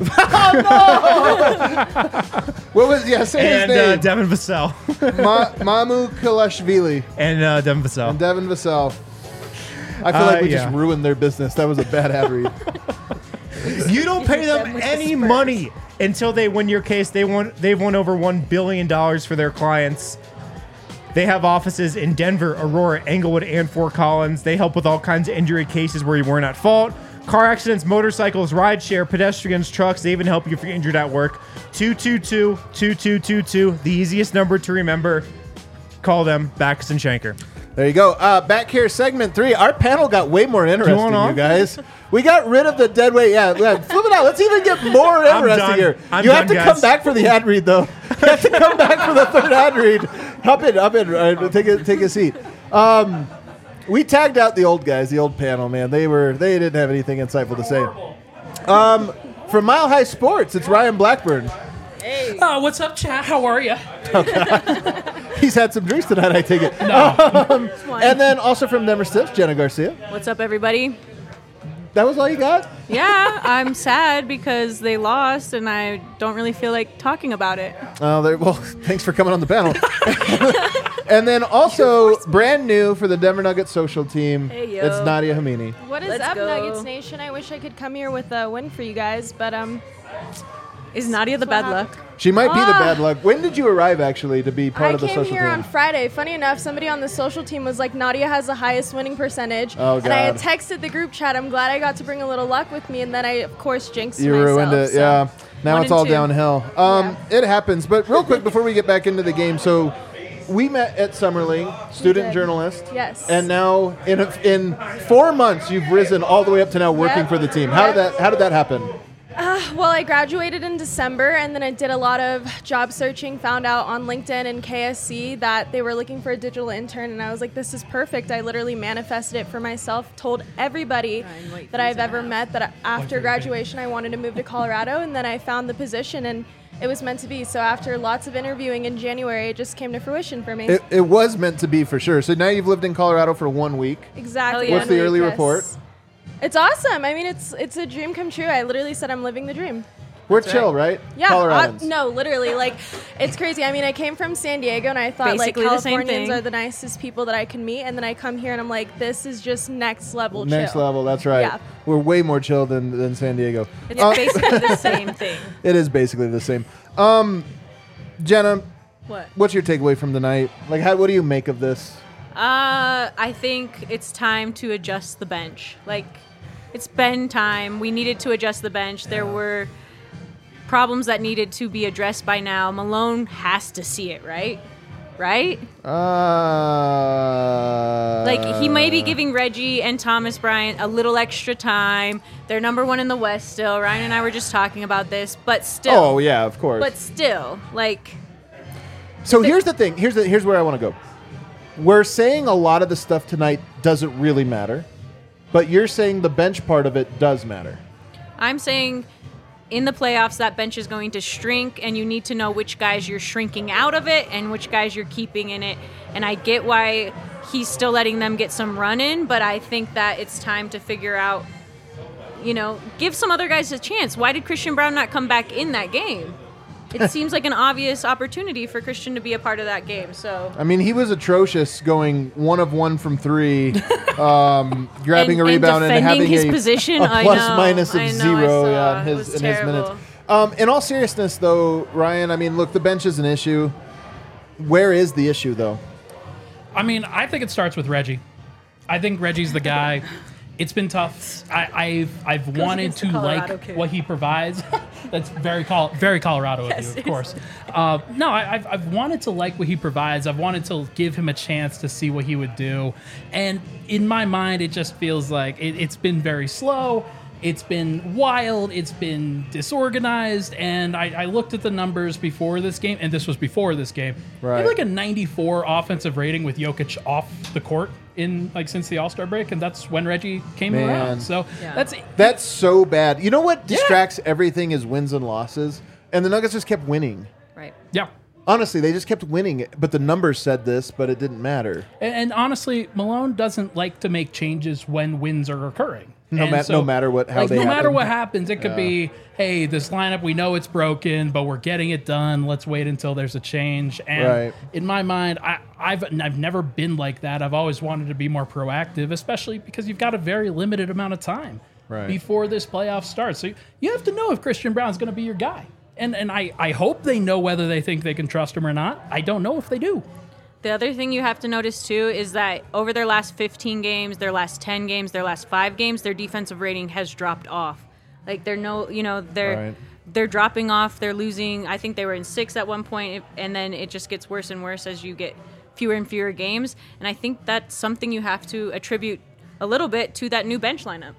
What was, yeah, say and his uh, name. Devin Vassell. Ma- Mamu Kalashvili and uh, Devin Vassell. and Devin Vassell. I feel Uh, like we yeah. just ruined their business. That was a bad ad read. You don't pay them Them with the any Spurs. money until they win your case. They won. They've won over one billion dollars for their clients. They have offices in Denver, Aurora, Englewood, and Fort Collins. They help with all kinds of injury cases where you weren't at fault. Car accidents, motorcycles, rideshare, pedestrians, trucks. They even help you if you're injured at work. two two two, two two two two, the easiest number to remember. Call them, Backus and Shanker. There you go. Uh, back here, segment three. Our panel got way more interesting, want you, on? guys. We got rid of the dead weight. Yeah, yeah, flip it out. Let's even get more I'm interesting done. here. I'm you have done, to guys. come back for the ad read, though. You have to come back for the third ad read. Hop in, hop in. All right, take a take a seat. Um, we tagged out the old guys, the old panel. Man, they were they didn't have anything insightful to say. Um, from Mile High Sports, it's Ryan Blackburn. Oh, what's up, chat? How are you? He's had some drinks tonight, I take it. Um, and then also from Denver Stiffs, Jenna Garcia. What's up, everybody? That was all you got? Yeah, I'm sad because they lost, and I don't really feel like talking about it. Oh, there, well, thanks for coming on the panel. And then also brand new for the Denver Nuggets social team, Hey, yo. it's Nadia Hamini. What is Let's up, go. Nuggets Nation? I wish I could come here with a win for you guys, but um, Is Nadia the That's bad what luck? She might be the Ah. bad luck. When did you arrive actually to be part I of the came social here team? on Friday. Funny enough, somebody on the social team was like, Nadia has the highest winning percentage. Oh, And I had God. texted the group chat. I'm glad I got to bring a little luck with me, and then I, of course, jinxed You myself. ruined it, so- yeah. Now One it's and all two. downhill. Um, It happens. But real quick before we get back into the game, so we met at Summerling, student did. journalist. Yes. And now in a, in four months, you've risen all the way up to now working Yep. for the team. How did Yep. that How did that happen? Well, I graduated in December, and then I did a lot of job searching, found out on LinkedIn and K S C that they were looking for a digital intern, and I was like, this is perfect. I literally manifested it for myself, told everybody that I've ever met that after graduation I wanted to move to Colorado, and then I found the position, and it was meant to be. So after lots of interviewing in January, it just came to fruition for me. It, it was meant to be for sure. So now you've lived in Colorado for one week. exactly. Hell yeah. What's the one early week, report? yes. It's awesome. I mean, it's it's a dream come true. I literally said I'm living the dream. We're chill, right? Yeah, uh, Coloradans. no, literally, like, it's crazy. I mean, I came from San Diego, and I thought, Basically like, the same Californians thing. are the nicest people that I can meet, and then I come here, and I'm like, this is just next level Next chill. level, that's right. Yeah. We're way more chill than, than San Diego. It's Uh, basically the same thing. it is basically the same. Um, Jenna, What? what's your takeaway from the night? Like, how, what do you make of this? Uh, I think it's time to adjust the bench. Like, it's been time. We needed to adjust the bench. There were problems that needed to be addressed by now. Malone has to see it, right? right? Uh, Like, he may be giving Reggie and Thomas Bryant a little extra time. They're number one in the West still. Ryan and I were just talking about this, but still. Oh, yeah, of course. But still, like... So here's the thing. Here's the, here's where I want to go. We're saying a lot of the stuff tonight doesn't really matter, but you're saying the bench part of it does matter. I'm saying in the playoffs, that bench is going to shrink, and you need to know which guys you're shrinking out of it and which guys you're keeping in it. And I get why he's still letting them get some run in, but I think that it's time to figure out, you know, give some other guys a chance. Why did Christian Braun not come back in that game? It seems like an obvious opportunity for Christian to be a part of that game. So I mean, he was atrocious, going one of one from three, um, grabbing And- a and rebound and, defending having his a, position. a I plus know, minus of I know, I zero saw. yeah, in It his, was in his terrible. minutes. Um, in all seriousness, though, Ryan, I mean, look, the bench is an issue. Where is the issue, though? I mean, I think it starts with Reggie. I think Reggie's the guy. It's been tough. I, I've I've wanted against to the Colorado like kid. what he provides. That's very Col- very Colorado Yes, of you, of course. Uh, no, I, I've I've wanted to like what he provides. I've wanted to give him a chance to see what he would do. And in my mind, it just feels like it, it's been very slow. It's been wild. It's been disorganized. And I, I looked at the numbers before this game, and this was before this game. Right. He had like a ninety-four offensive rating with Jokic off the court in like since the All-Star break, and that's when Reggie came Man. around. So Yeah. that's That's so bad. You know what distracts everything is wins and losses? And the Nuggets just kept winning. right. yeah. Honestly, they just kept winning. But the numbers said this, but it didn't matter. And, and honestly, Malone doesn't like to make changes when wins are occurring. No And ma- no matter what- how like, they no matter happen. what happens, it could be, hey, this lineup, we know it's broken, but we're getting it done. Let's wait until there's a change. And Right. in my mind, I, I've I've never been like that. I've always wanted to be more proactive, especially because you've got a very limited amount of time Right. before this playoff starts. So you, you have to know if Christian Brown's going to be your guy. And and I, I hope they know whether they think they can trust him or not. I don't know if they do. The other thing you have to notice too is that over their last fifteen games, their last ten games, their last five games, their defensive rating has dropped off. Like they're no, you know, they're Right. they're dropping off. They're losing. I think they were in six at one point, and then it just gets worse and worse as you get fewer and fewer games. And I think that's something you have to attribute a little bit to that new bench lineup.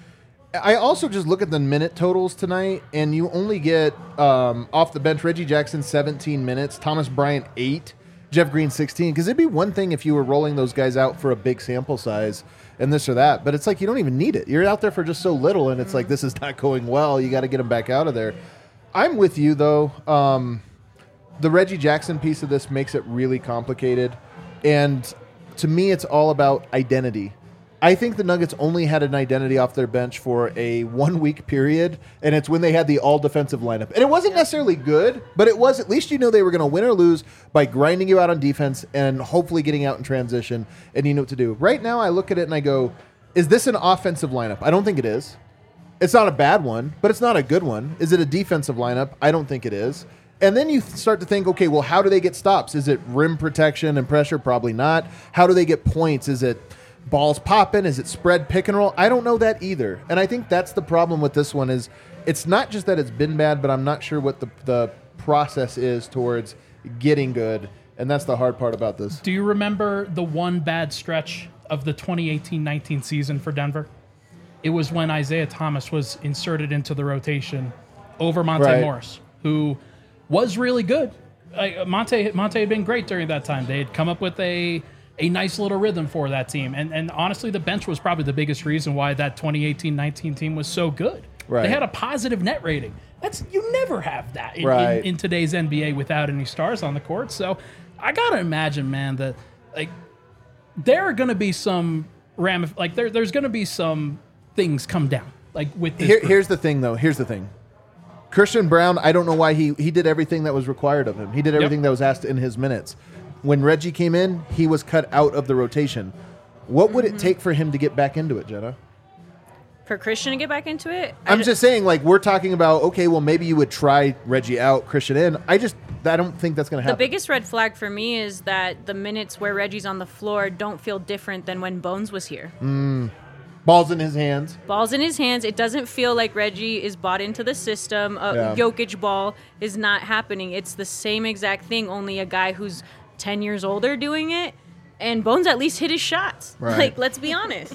I also just look at the minute totals tonight, and you only get um, off the bench Reggie Jackson seventeen minutes, Thomas Bryant eight, Jeff Green sixteen. Because it'd be one thing if you were rolling those guys out for a big sample size and this or that, but it's like you don't even need it. You're out there for just so little, and it's like this is not going well. You got to get them back out of there. I'm with you though. Um, the Reggie Jackson piece of this makes it really complicated, and to me, it's all about identity. I think the Nuggets only had an identity off their bench for a one-week period, and it's when they had the all-defensive lineup. And it wasn't necessarily good, but it was at least you know they were going to win or lose by grinding you out on defense and hopefully getting out in transition, and you know what to do. Right now, I look at it and I go, is this an offensive lineup? I don't think it is. It's not a bad one, but it's not a good one. Is it a defensive lineup? I don't think it is. And then you th- start to think, okay, well, how do they get stops? Is it rim protection and pressure? Probably not. How do they get points? Is it balls popping? Is it spread pick and roll? I don't know that either. And I think that's the problem with this one is it's not just that it's been bad, but I'm not sure what the, the process is towards getting good. And that's the hard part about this. Do you remember the one bad stretch of the twenty eighteen nineteen season for Denver? It was when Isaiah Thomas was inserted into the rotation over Monte Right. Morris, who was really good. Uh, Monte Monte had been great during that time. They had come up with a a nice little rhythm for that team. And and honestly, the bench was probably the biggest reason why that twenty eighteen nineteen team was so good. Right. They had a positive net rating. That's you never have that in, Right. in, in today's N B A without any stars on the court. So I gotta imagine, man, that like there are gonna be some ramif- like there there's gonna be some things come down like with this Here, group. here's the thing, though. Here's the thing. Christian Braun, I don't know why he, he did everything that was required of him. He did everything Yep. that was asked in his minutes. When Reggie came in, he was cut out of the rotation. What would it take for him to get back into it, Jenna? For Christian to get back into it, I I'm ju- just saying, like, we're talking about, okay, well, maybe you would try Reggie out, Christian in. I just, I don't think that's going to The happen. biggest red flag for me is that the minutes where Reggie's on the floor don't feel different than when Bones was here. Ball's in his hands. Ball's in his hands. It doesn't feel like Reggie is bought into the system. A Yeah. Jokic ball is not happening. It's the same exact thing, only a guy who's ten years older doing it, and Bones at least hit his shots. Right. Like, let's be honest.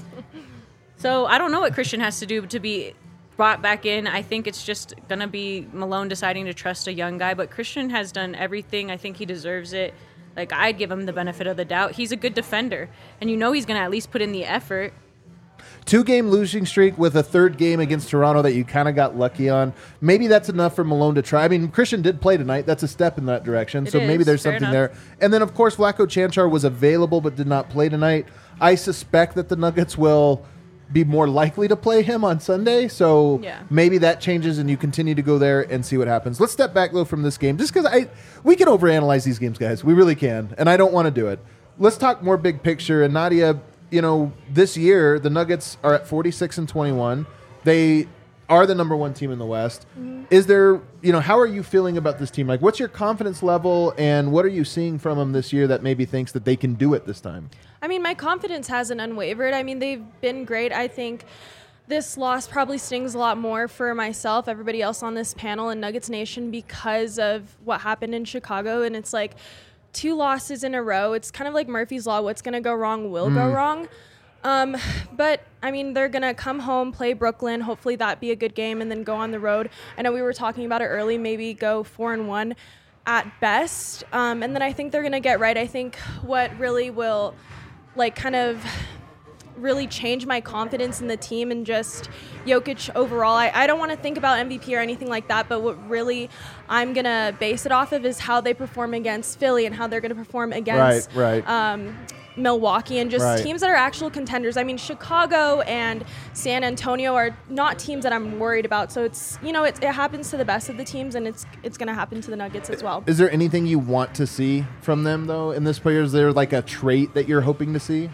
So I don't know what Christian has to do to be brought back in. I think it's just going to be Malone deciding to trust a young guy, but Christian has done everything. I think he deserves it. Like, I'd give him the benefit of the doubt. He's a good defender, and you know he's going to at least put in the effort. Two-game losing streak with a third game against Toronto that you kind of got lucky on. Maybe that's enough for Malone to try. I mean, Christian did play tonight. That's a step in that direction. It so maybe is. there's Fair something enough. there. And then, of course, Vlatko Chanchar was available but did not play tonight. I suspect that the Nuggets will be more likely to play him on Sunday. So Yeah. maybe that changes and you continue to go there and see what happens. Let's step back, though, from this game. Just because I we can overanalyze these games, guys. We really can. And I don't want to do it. Let's talk more big picture. And Nadia, you know, this year the Nuggets are at forty-six and twenty-one. They are the number one team in the West. Mm-hmm. Is there, you know, how are you feeling about this team? Like, what's your confidence level, and what are you seeing from them this year that maybe thinks that they can do it this time? I mean, my confidence hasn't unwavered. I mean, they've been great. I think this loss probably stings a lot more for myself, everybody else on this panel, and Nuggets Nation because of what happened in Chicago. And it's like two losses in a row. It's kind of like Murphy's Law. What's going to go wrong will mm. go wrong. Um, but, I mean, they're going to come home, play Brooklyn. Hopefully that be a good game, and then go on the road. I know we were talking about it early, maybe go four and one at best. Um, and then I think they're going to get right. I think what really will, like, kind of really change my confidence in the team and just Jokic overall. I, I don't want to think about M V P or anything like that, but what really I'm going to base it off of is how they perform against Philly and how they're going to perform against right, right. Um, Milwaukee and just right. teams that are actual contenders. I mean, Chicago and San Antonio are not teams that I'm worried about. So it's, you know, it, it happens to the best of the teams, and it's it's going to happen to the Nuggets as well. Is there anything you want to see from them, though, in this player? Is there like a trait that you're hoping to see?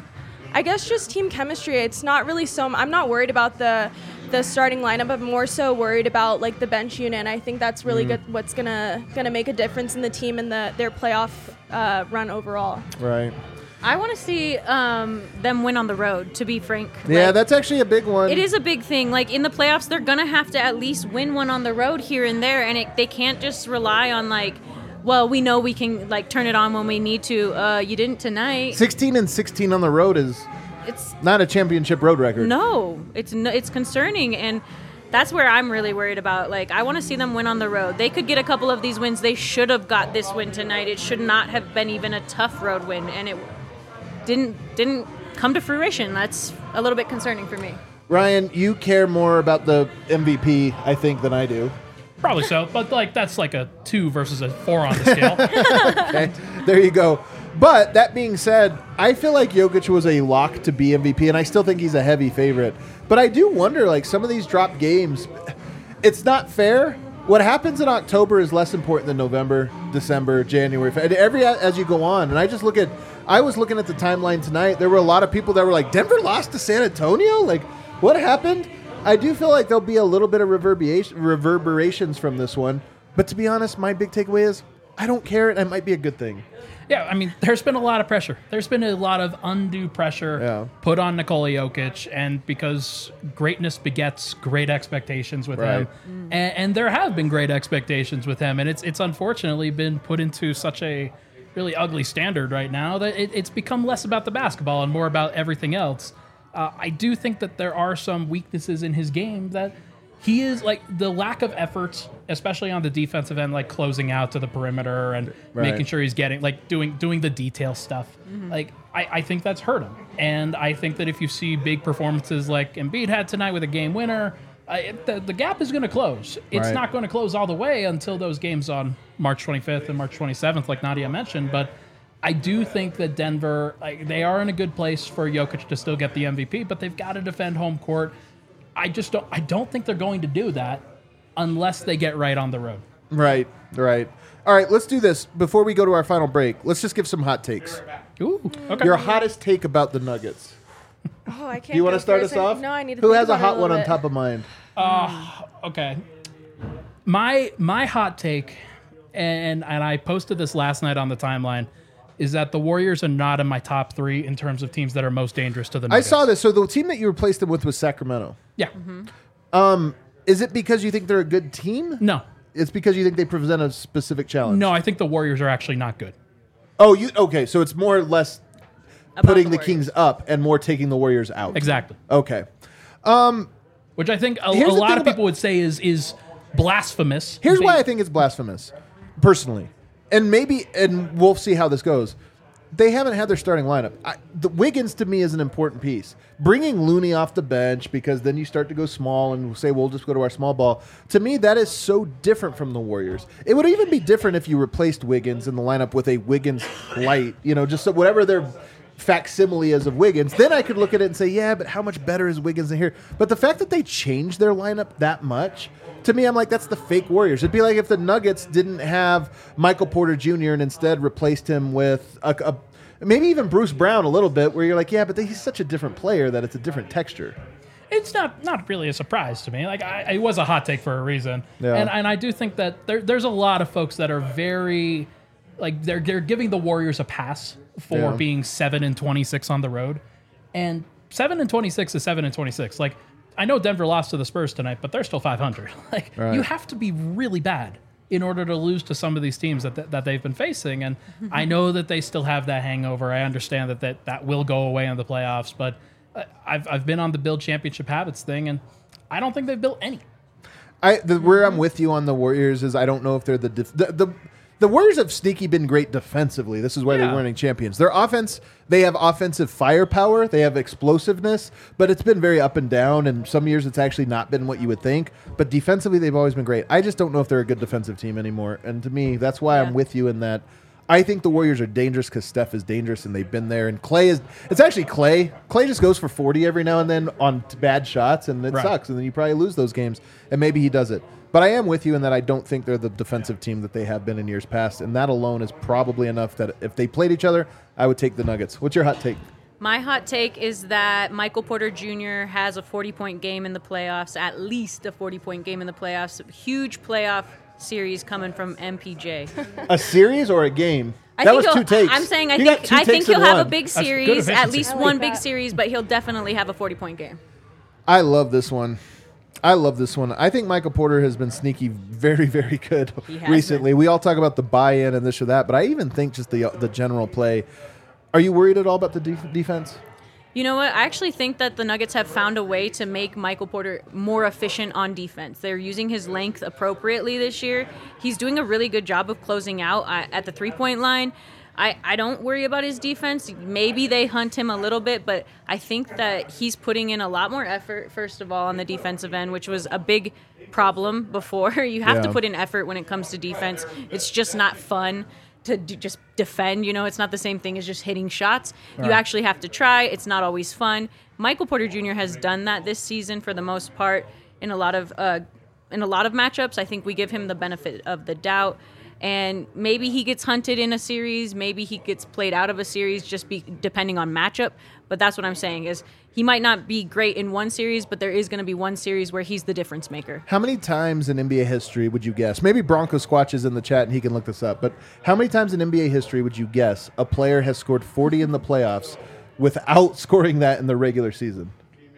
I guess just team chemistry. It's not really so. I'm not worried about the the starting lineup. I'm more so worried about like the bench unit. And I think that's really mm. good. What's gonna gonna make a difference in the team and the their playoff uh, run overall. Right. I want to see um, them win on the road, to be frank. Yeah, like, that's actually a big one. It is a big thing. Like, in the playoffs, they're going to have to at least win one on the road here and there, and it, they can't just rely on, like, well, we know we can, like, turn it on when we need to. Uh, you didn't tonight. sixteen and sixteen on the road is it's not a championship road record. No, it's no, it's concerning, and that's where I'm really worried about. Like, I want to see them win on the road. They could get a couple of these wins. They should have got this win tonight. It should not have been even a tough road win, and it didn't didn't come to fruition. That's a little bit concerning for me. Ryan, you care more about the M V P, I think, than I do. Probably so, but like that's like a two versus a four on the scale. Okay, there you go. But that being said, I feel like Jokic was a lock to be M V P, and I still think he's a heavy favorite. But I do wonder, like, some of these drop games, it's not fair. What happens in October is less important than November, December, January, and every as you go on. And I just look at, I was looking at the timeline tonight. There were a lot of people that were like, Denver lost to San Antonio? Like, what happened? I do feel like there'll be a little bit of reverberation, reverberations from this one. But to be honest, my big takeaway is I don't care, and it might be a good thing. Yeah, I mean, there's been a lot of pressure. There's been a lot of undue pressure yeah. put on Nikola Jokic, and because greatness begets great expectations with right. him, mm. and, and there have been great expectations with him, and it's it's unfortunately been put into such a really ugly standard right now that it, it's become less about the basketball and more about everything else. Uh, I do think that there are some weaknesses in his game that he is like the lack of effort, especially on the defensive end, like closing out to the perimeter and right. making sure he's getting like doing doing the detail stuff. Mm-hmm. Like I, I think that's hurt him, and I think that if you see big performances like Embiid had tonight with a game winner, uh, it, the, the gap is going to close. It's right. not going to close all the way until those games on March twenty-fifth and March twenty-seventh, like Nadia mentioned, but. I do think that Denver, like, they are in a good place for Jokic to still get the M V P, but they've got to defend home court. I just don't. I don't think they're going to do that unless they get right on the road. Right, right. All right, let's do this before we go to our final break. Let's just give some hot takes. Ooh, okay. Your hottest take about the Nuggets. Oh, I can't. Do you want to start first. us off? No, I need to. Who think has a about it hot one little on bit. top of mind? Uh, okay. My my hot take, and and I posted this last night on the timeline, is that the Warriors are not in my top three in terms of teams that are most dangerous to the Nuggets. I saw this. So the team that you replaced them with was Sacramento. Yeah. Mm-hmm. Um, is it because you think they're a good team? No. It's because you think they present a specific challenge. No, I think the Warriors are actually not good. Oh, you okay? So it's more or less About putting the the, Warriors. Kings up and more taking the Warriors out. Exactly. Okay. Which I think a, a Here's the lot thing of people about- would say is is blasphemous. Here's They- why I think it's blasphemous, personally, and maybe, and we'll see how this goes. They haven't had their starting lineup. I, the Wiggins to me is an important piece. Bringing Looney off the bench because then you start to go small and say we'll just go to our small ball. To me, that is so different from the Warriors. It would even be different if you replaced Wiggins in the lineup with a Wiggins light. You know, just so whatever their facsimile is of Wiggins. Then I could look at it and say, yeah, but how much better is Wiggins than here? But the fact that they changed their lineup that much. To me, I'm like, that's the fake Warriors. It'd be like if the Nuggets didn't have Michael Porter Junior and instead replaced him with a, a maybe even Bruce Brown a little bit, where you're like, yeah, but he's such a different player that it's a different texture. It's not not really a surprise to me. Like I, it was a hot take for a reason, Yeah. and and I do think that there, there's a lot of folks that are very like they're they're giving the Warriors a pass for Yeah. being seven and twenty six on the road, and seven and twenty six is seven and twenty six. Like I know Denver lost to the Spurs tonight, but they're still five hundred. Like Right. you have to be really bad in order to lose to some of these teams that that, that they've been facing, and I know that they still have that hangover. I understand that that, that will go away in the playoffs, but uh, I've I've been on the build championship habits thing, and I don't think they've built any. I the, where I'm with you on the Warriors is I don't know if they're the def, the, the the Warriors have sneaky been great defensively. This is why Yeah. they're winning champions. Their offense, they have offensive firepower, they have explosiveness, but it's been very up and down. And some years it's actually not been what you would think. But defensively, they've always been great. I just don't know if they're a good defensive team anymore. And to me, that's why I'm Yeah. with you in that. I think the Warriors are dangerous because Steph is dangerous and they've been there. And Clay is, it's actually Clay. Clay just goes for forty every now and then on t- bad shots, and it Right. sucks. And then you probably lose those games. And maybe he does it. But I am with you in that I don't think they're the defensive team that they have been in years past. And that alone is probably enough that if they played each other, I would take the Nuggets. What's your hot take? My hot take is that Michael Porter Junior has a forty-point game in the playoffs, at least a forty-point game in the playoffs. Huge playoff series coming from M P J. A series or a game? I that think was two he'll- takes. I'm saying I You got think two I think takes in he'll have a one. big good series, at efficiency. least I like one big that. series, but he'll definitely have a forty-point game. I love this one. I love this one. I think Michael Porter has been sneaky very, very good He has recently. We all talk about the buy-in and this or that, but I even think just the the general play. Are you worried at all about the def- defense? You know what? I actually think that the Nuggets have found a way to make Michael Porter more efficient on defense. They're using his length appropriately this year. He's doing a really good job of closing out uh, at the three-point line. I, I don't worry about his defense. Maybe they hunt him a little bit, but I think that he's putting in a lot more effort, first of all, on the defensive end, which was a big problem before. You have to Yeah. put in effort when it comes to defense. It's just not fun to d- just defend. You know, it's not the same thing as just hitting shots. You actually have to try. It's not always fun. Michael Porter Junior has done that this season for the most part in a lot of uh, in a lot of matchups. I think we give him the benefit of the doubt. And maybe he gets hunted in a series. Maybe he gets played out of a series just be, depending on matchup. But that's what I'm saying is he might not be great in one series, but there is going to be one series where he's the difference maker. How many times in N B A history would you guess? Maybe Bronco Squatch is in the chat and he can look this up. But how many times in N B A history would you guess a player has scored forty in the playoffs without scoring that in the regular season?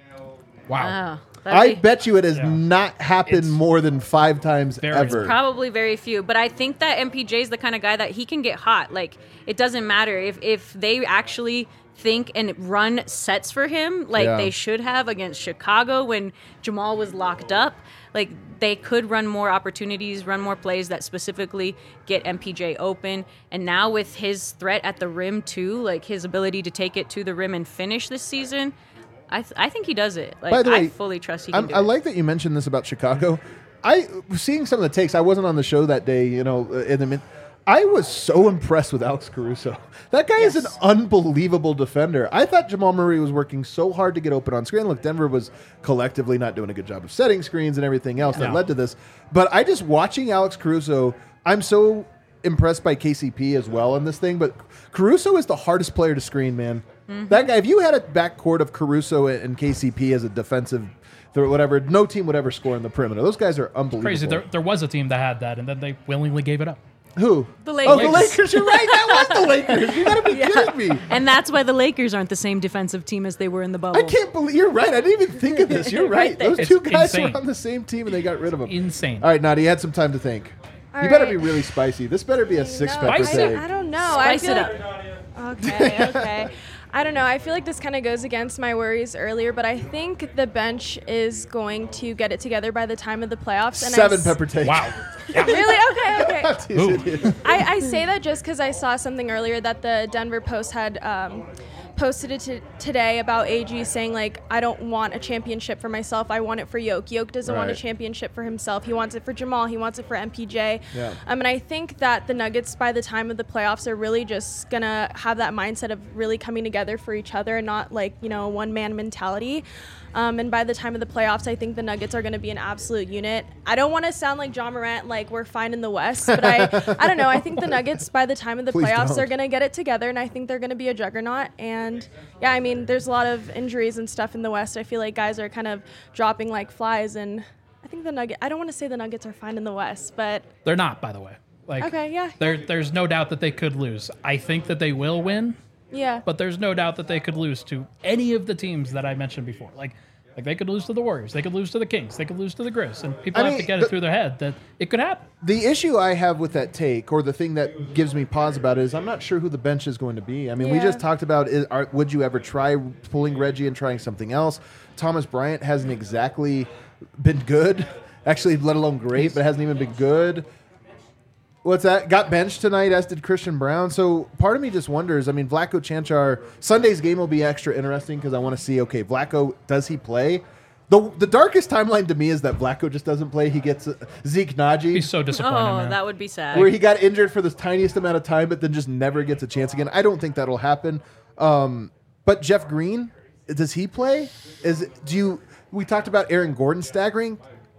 Wow. Oh, that'd I be- bet you it has Yeah. not happened It's more than five times very- ever. Probably very few, but I think that M P J is the kind of guy that he can get hot. Like it doesn't matter if if they actually think and run sets for him, like Yeah. they should have against Chicago when Jamal was locked up. Like they could run more opportunities, run more plays that specifically get M P J open. And now with his threat at the rim too, like his ability to take it to the rim and finish this season, I th- I think he does it. Like By the I way, fully trust he can I'm, do I it. like that you mentioned this about Chicago. I seeing some of the takes. I wasn't on the show that day. You know, in the mid, I was so impressed with Alex Caruso. That guy is an Yes. unbelievable defender. I thought Jamal Murray was working so hard to get open on screen. Look, Denver was collectively not doing a good job of setting screens and everything else that No. led to this. But I just watching Alex Caruso, I'm so impressed by K C P as well in this thing. But Caruso is the hardest player to screen, man. That guy, if you had a backcourt of Caruso and K C P as a defensive, th- whatever, no team would ever score in the perimeter. Those guys are unbelievable. Crazy. There, there was a team that had that, and then they willingly gave it up. Who? The Oh, Lakers. the Lakers. You're right. That was the Lakers. You gotta be kidding me. And that's why the Lakers aren't the same defensive team as they were in the bubble. I can't believe you're right. I didn't even think of this. You're right. Right there. Those It's two guys insane. were on the same team and they got rid of them. Insane. All right, Nadi, you had some time to think. All You better right. be really spicy. This better be a six No, pepper Spice I, it. take. I don't know. Spice I feel it like, Okay, okay. I don't know. I feel like this kind of goes against my worries earlier, but I think the bench is going to get it together by the time of the playoffs. And I Seven s- pepper take. Wow. Really? Okay, okay. Teasing you. I, I say that just because I saw something earlier that the Denver Post had um, posted it to, today about A G saying, like, I don't want a championship for myself. I want it for Yoke. Yoke doesn't want a Right. championship for himself. He wants it for Jamal. He wants it for M P J. Yeah. Um, and I think that the Nuggets, by the time of the playoffs, are really just going to have that mindset of really coming together for each other and not, like, you know, a one-man mentality. Um, and by the time of the playoffs, I think the Nuggets are going to be an absolute unit. I don't want to sound like John Morant, like we're fine in the West, but I, I don't know. I think the Nuggets, by the time of the Please playoffs, don't. are going to get it together, and I think they're going to be a juggernaut. And yeah, I mean, there's a lot of injuries and stuff in the West. I feel like guys are kind of dropping like flies, and I think the Nugget. I don't want to say the Nuggets are fine in the West, but They're not, by the way. Like, okay, yeah, there, there's no doubt that they could lose. I think that they will win, yeah. but there's no doubt that they could lose to any of the teams that I mentioned before. Like, like they could lose to the Warriors, they could lose to the Kings, they could lose to the Grizz, and people I have mean, to get the- it through their head that it could happen. The issue I have with that take, or the thing that gives me pause about it, is I'm not sure who the bench is going to be. I mean, we Yeah. just talked about, is, are, would you ever try pulling Reggie and trying something else? Thomas Bryant hasn't exactly been good, actually, let alone great, but hasn't even been good. What's that? Got benched tonight, as did Christian Brown. So part of me just wonders, I mean, Vlatko Chanchar, Sunday's game will be extra interesting because I want to see, okay, Vlatko, does he play? The, the darkest timeline to me is that Vlatko just doesn't play. He gets uh, Zeke Naji. Be so disappointed, Oh, man. that would be sad. where he got injured for the tiniest amount of time, but then just never gets a chance again. I don't think that'll happen. Um, but Jeff Green, does he play? Is do you? We talked about Aaron Gordon staggering.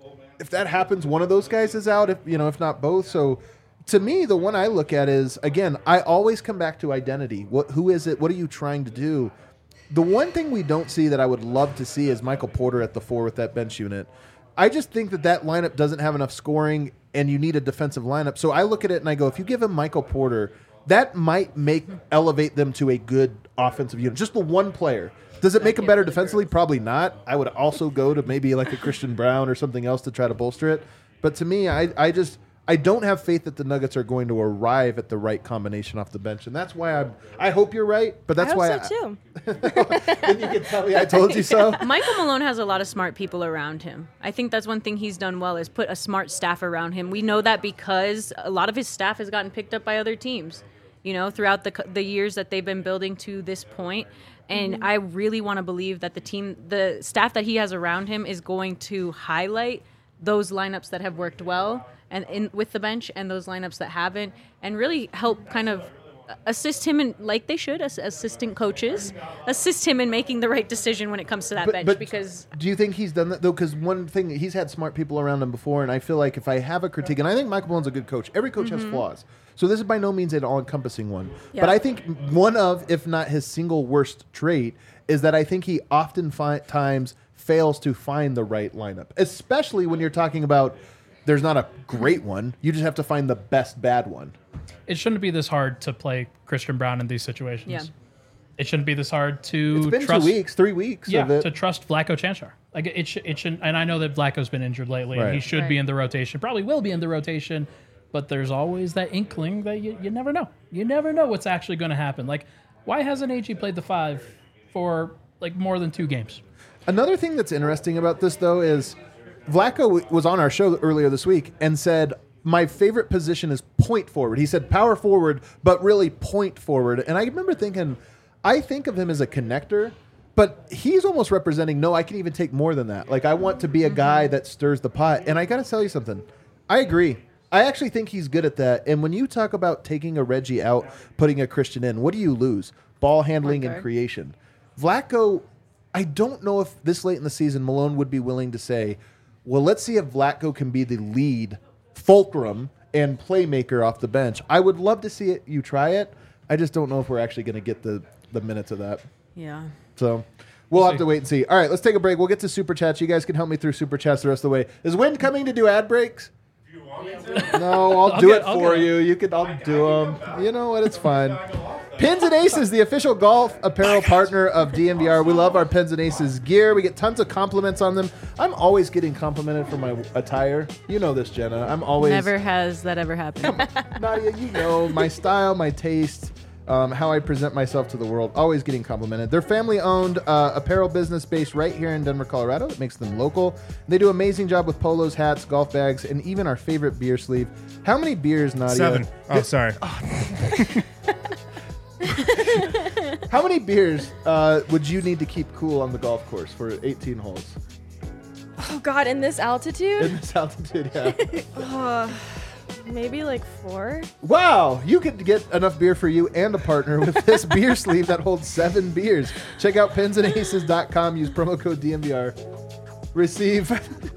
If that happens, one of those guys is out. If you know, if not both. So, to me, the one I look at is again. I always come back to identity. What? Who is it? What are you trying to do? The one thing we don't see that I would love to see is Michael Porter at the four with that bench unit. I just think that that lineup doesn't have enough scoring, and you need a defensive lineup. So I look at it and I go, if you give him Michael Porter, that might make elevate them to a good offensive unit. Just the one player. Does it make them better defensively? Probably not. I would also go to maybe like a Christian Brown or something else to try to bolster it. But to me, I, I just I don't have faith that the Nuggets are going to arrive at the right combination off the bench, and that's why I'm. I hope you're right, but that's I hope why so too. then you can tell me I told you so. Michael Malone has a lot of smart people around him. I think that's one thing he's done well is put a smart staff around him. We know that because a lot of his staff has gotten picked up by other teams, you know, throughout the the years that they've been building to this point. And Mm-hmm. I really want to believe that the team, the staff that he has around him is going to highlight those lineups that have worked well and in with the bench and those lineups that haven't, and really help kind of assist him in, like they should, as assistant coaches, assist him in making the right decision when it comes to that bench. Because do you think he's done that though? Because one thing, he's had smart people around him before, and I feel like if I have a critique, and I think Michael Malone's a good coach. Every coach has flaws, so this is by no means an all-encompassing one. Yeah. But I think one of, if not his single worst trait, is that I think he often fi- times fails to find the right lineup, especially when you're talking about. There's not a great one. You just have to find the best bad one. It shouldn't be this hard to play Christian Brown in these situations. Yeah. It shouldn't be this hard to It's been trust. two weeks, three weeks Yeah, of it. to trust Vlatko Chanchar. Like it, sh- it shouldn't. And I know that Vlatko's been injured lately, and Right. he should be Right. in the rotation. Probably will be in the rotation, but there's always that inkling that you, you never know. You never know what's actually going to happen. Like, why hasn't A G played the five for like more than two games? Another thing that's interesting about this, though, is Vlatko w- was on our show earlier this week and said, my favorite position is point forward. He said power forward, but really point forward. And I remember thinking, I think of him as a connector, but he's almost representing, no, I can even take more than that. Like, I want to be a guy that stirs the pot. And I got to tell you something. I agree. I actually think he's good at that. And when you talk about taking a Reggie out, putting a Christian in, what do you lose? Ball handling and Okay. creation. Vlatko, I don't know if this late in the season Malone would be willing to say, well, let's see if Vlatko can be the lead fulcrum and playmaker off the bench. I would love to see it. You try it. I just don't know if we're actually going to get the, the minutes of that. yeah. So we'll have see. to wait and see. All right, let's take a break. We'll get to Super Chats. You guys can help me through Super Chats the rest of the way. Is Wind coming to do ad breaks? Do you want me to? No, I'll, I'll do get- it I'll for get it. you. You can. I'll do them. You know what? It's fine. Pins and Aces, the official golf apparel partner of D N V R. We love our Pins and Aces gear. We get tons of compliments on them. I'm always getting complimented for my attire. You know this, Jenna. I'm always Never has that ever happened. Nadia, you know my style, my taste, um, how I present myself to the world. Always getting complimented. They're family-owned uh, apparel business based right here in Denver, Colorado. That makes them local. They do an amazing job with polos, hats, golf bags, and even our favorite beer sleeve. How many beers, Nadia? Seven. Oh, sorry. How many beers uh, would you need to keep cool on the golf course for eighteen holes? Oh God, in this altitude? In this altitude, yeah. Uh, maybe like four. Wow, you could get enough beer for you and a partner with this beer sleeve that holds seven beers. Check out pins and aces dot com. Use promo code D M V R. Receive.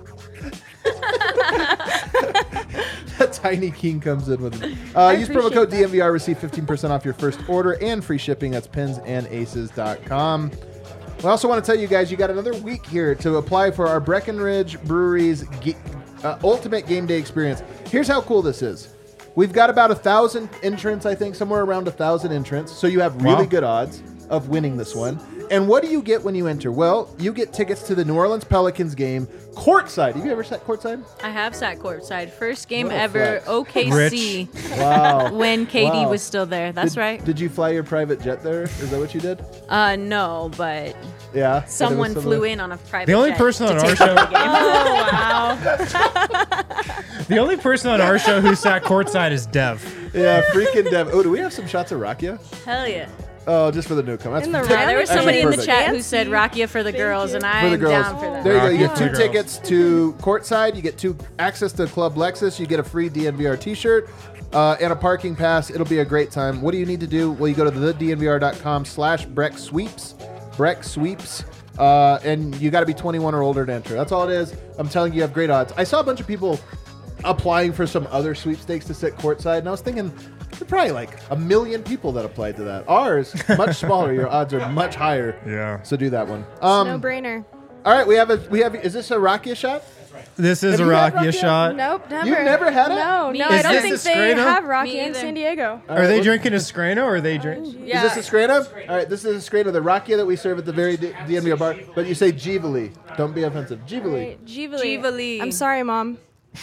A tiny king comes in with it. Uh, use promo code that. D M V R. Receive fifteen percent off your first order and free shipping. That's pins and aces dot com. We also want to tell you guys, you got another week here to apply for our Breckenridge Brewery's ge- uh, Ultimate Game Day Experience. Here's how cool this is. We've got about a thousand entrants, I think, somewhere around a thousand entrants. So you have really Wow. good odds of winning this one. And what do you get when you enter? Well, you get tickets to the New Orleans Pelicans game courtside. Have you ever sat courtside? I have sat courtside. First game What a ever, flex. O K C, Wow. when K D Wow. was still there. That's did, right. Did you fly your private jet there? Is that what you did? Uh, no, but Yeah. someone flew in on a private The only jet person to on our take show- over the game. Oh wow. The only person on our show who sat courtside is Dev. Yeah, freaking Dev. Oh, do we have some shots of Rakia? Hell yeah. Oh, just for the newcomer. That's In the that's Yeah, there was Actually somebody in the perfect. chat who Fancy. said Rakia for the Thank girls, you. and For I'm the girls. down for that. There you go. You get Rocky two for the girls. tickets to courtside. You get two access to Club Lexus. You get a free D N V R t-shirt uh, and a parking pass. It'll be a great time. What do you need to do? Well, you go to the D N V R dot com slash Breck Sweeps. Breck Sweeps. Uh, and you got to be twenty-one or older to enter. That's all it is. I'm telling you, you have great odds. I saw a bunch of people applying for some other sweepstakes to sit courtside, and I was thinking, there are probably like a million people that applied to that. Ours, much smaller. Your odds are much higher. Yeah. So do that one. Um, No brainer. all right, we have a we have. Is this a Rakia shot? This is Have a you had Rakia Rakia? shot. Nope, never. You've never had it? No, Me no. either. I don't Is think this a they Scrano? have Me Rocky in either. San Diego. Are they drinking a Scrano or are they drink? Yeah. Is this a Scrana? All right, this is a Scrana, the Rakia that we serve at the very D- DNVR bar. But you say Givali. Don't be offensive. Givali. Right, Givali. Givali. I'm sorry, mom.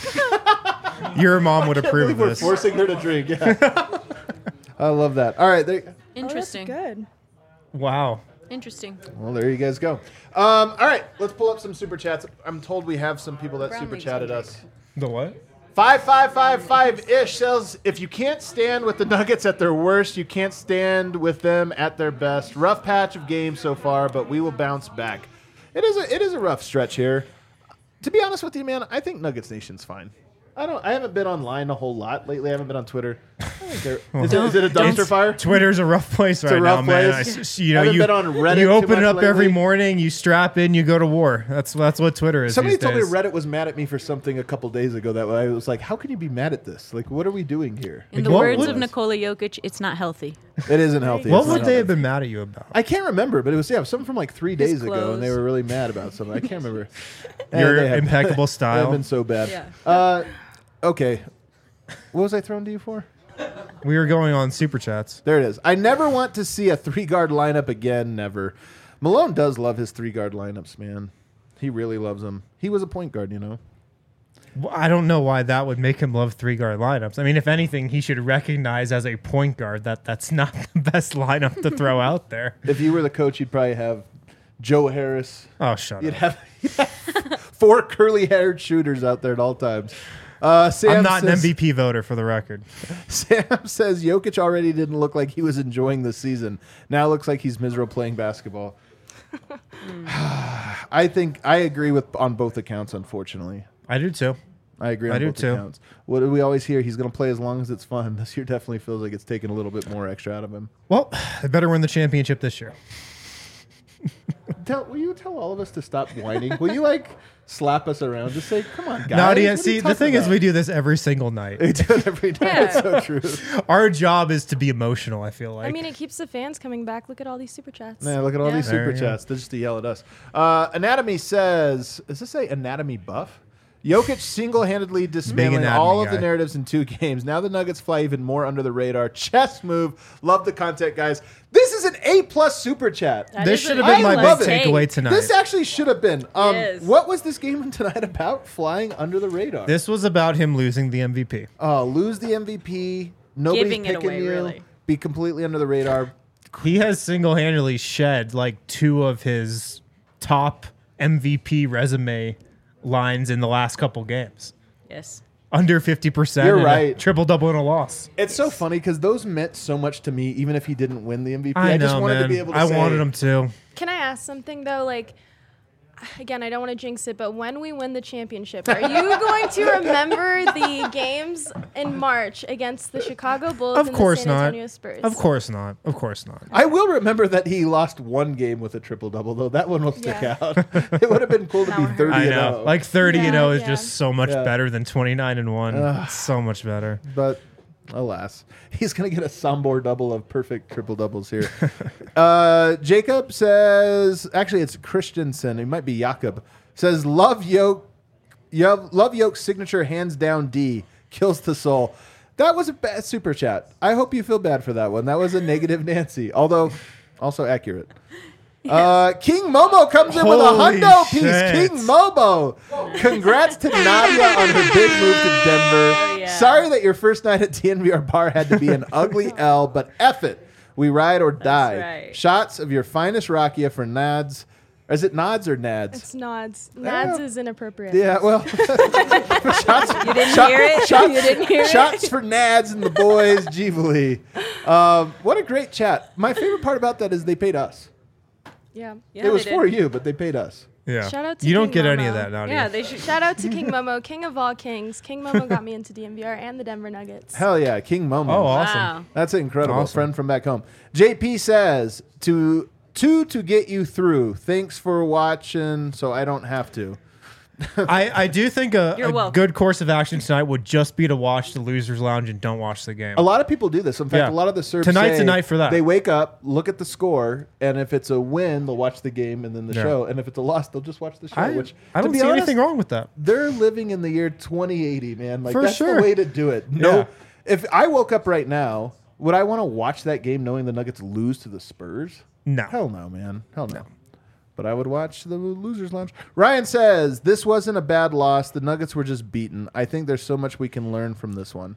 Your mom would I approve believe of we're this. forcing her to drink. Yeah. I love that. All right, there, Interesting. Oh, that's good. Wow. Interesting. well, there you guys go. Um, all right, let's pull up some super chats. I'm told we have some people that Brown super league's chatted gonna us. The what? Five five five five ish says if you can't stand with the Nuggets at their worst, you can't stand with them at their best. Rough patch of games so far, but we will bounce back. It is a it is a rough stretch here. To be honest with you, man, I think Nuggets Nation's fine. I don't. I haven't been online a whole lot lately. I haven't been on Twitter. I think they're- is, it, is it a dumpster Don't- fire? Twitter's a rough place right a rough now, man. I place. s- you know, Haven't you, been on Reddit you too open it much up every lately. morning, you strap in, you go to war. That's that's what Twitter is. Somebody these told days. me Reddit was mad at me for something a couple days ago. That I was like, how can you be mad at this? Like, what are we doing here? In the What words would- of Nikola Jokic, it's not healthy. It isn't healthy. What It's not would they have healthy. been mad at you about? I can't remember, but it was yeah, something from like three days ago, clothes. and they were really mad about something. I can't remember. Your Eh, they have- impeccable They have style. been so bad. Yeah. Uh, okay, what was I thrown to you for? We were going on super chats. There it is. I never want to see a three guard lineup again. Never. Malone does love his three guard lineups, man. He really loves them. He was a point guard, you know. Well, I don't know why that would make him love three guard lineups. I mean, if anything, he should recognize as a point guard that that's not the best lineup to throw out there. If you were the coach, you'd probably have Joe Harris. Oh, shut You'd up. have, you'd have four curly haired shooters out there at all times. Uh, Sam I'm not an says, M V P voter for the record. Sam says Jokic already didn't look like he was enjoying the season. Now it looks like he's miserable playing basketball. I think I agree with on both accounts. Unfortunately, I do too. I agree on I do both too. accounts. What do we always hear? He's going to play as long as it's fun. This year definitely feels like it's taking a little bit more extra out of him. Well, they better win the championship this year. Tell, will you tell all of us to stop whining? Will you like slap us around? Just say, "Come on, guys." Nadia, what are you see, the talking thing is, about?" we do this every single night. We do it every night. Yeah. It's so true. Our job is to be emotional, I feel like. I mean, it keeps the fans coming back. Look at all these super chats. Man, look at all Yeah. these There super you go. chats. They're just to yell at us. Uh, Anatomy says, does this say Anatomy Buff? Jokic single-handedly dismantling anatomy all of the guy. narratives in two games. Now the Nuggets fly even more under the radar. Chess move. Love the content, guys. This is an A-plus super chat. That This is should an have been I my love big it. takeaway tonight. This actually should have been. Um, Yes. What was this game tonight about? Flying under the radar. This was about him losing the M V P. Oh, lose the M V P. Nobody's Giving it picking away, you. really. Be completely under the radar. He has single-handedly shed like two of his top M V P resume lines in the last couple games. Yes. Under fifty percent. You're and a right. Triple double and a loss. It's so funny because those meant so much to me, even if he didn't win the M V P. I, I know, just wanted man. to be able to I say, wanted him to. Can I ask something though? Like, again, I don't want to jinx it, but when we win the championship, are you going to remember the games in March against the Chicago Bulls Of and course the San not. Antonio Spurs? Of course not. Of course not. I will remember that he lost one game with a triple double, though. That one will stick Yeah. out. It would have been cool to That be one hurt. thirty I and know. oh. Like thirty and Yeah, oh is yeah. just so much Yeah. better than twenty-nine and one. It's so much better. But alas, he's going to get a Sombor double of perfect triple doubles here. uh, Jacob says, actually, it's Christensen. It might be Jakob. Says, love Yoke. Yo, love Yoke's signature hands down D. Kills the soul. That was a bad super chat. I hope you feel bad for that one. That was a negative Nancy, although also accurate. Uh, King Momo comes in with a Holy hundo piece. shit. King Momo. Congrats to Nadia on her big move to Denver. Oh, yeah. Sorry that your first night at T N V R Bar had to be an ugly L, but F it. We ride or die. right. Shots of your finest rakia for Nads. Is it Nods or Nads? It's nods. Nads is inappropriate. Yeah, well, shots, You didn't shot- hear it? shots, You didn't hear it? shots for Nads and the boys, Givali. Um, what a great chat. My favorite part about that is they paid us. Yeah. Yeah, it was they for did. you, but they paid us. Yeah. Shout out to you don't King get any of Momo. that, Nadia. Yeah, they should. Shout out to King Momo, king of all kings. King Momo got me into D M V R and the Denver Nuggets. Hell yeah, King Momo. Oh, awesome. Wow. That's incredible. Awesome. Friend from back home. J P says, to two to get you through. Thanks for watching, so I don't have to. I, I do think a, You're a welcome. good course of action tonight would just be to watch the Losers Lounge and don't watch the game. A lot of people do this. In fact, Yeah. a lot of the Serbs Tonight's say the night for that. They wake up, look at the score, and if it's a win, they'll watch the game and then the Yeah. show. And if it's a loss, they'll just watch the show. I, which I to don't be see honest, anything wrong with that. They're living in the year twenty eighty, man. Like For that's sure. the way to do it. No, Yeah. if I woke up right now, would I want to watch that game knowing the Nuggets lose to the Spurs? No. Hell no, man. Hell no. But I would watch the Losers Lounge. Ryan says, this wasn't a bad loss. The Nuggets were just beaten. I think there's so much we can learn from this one.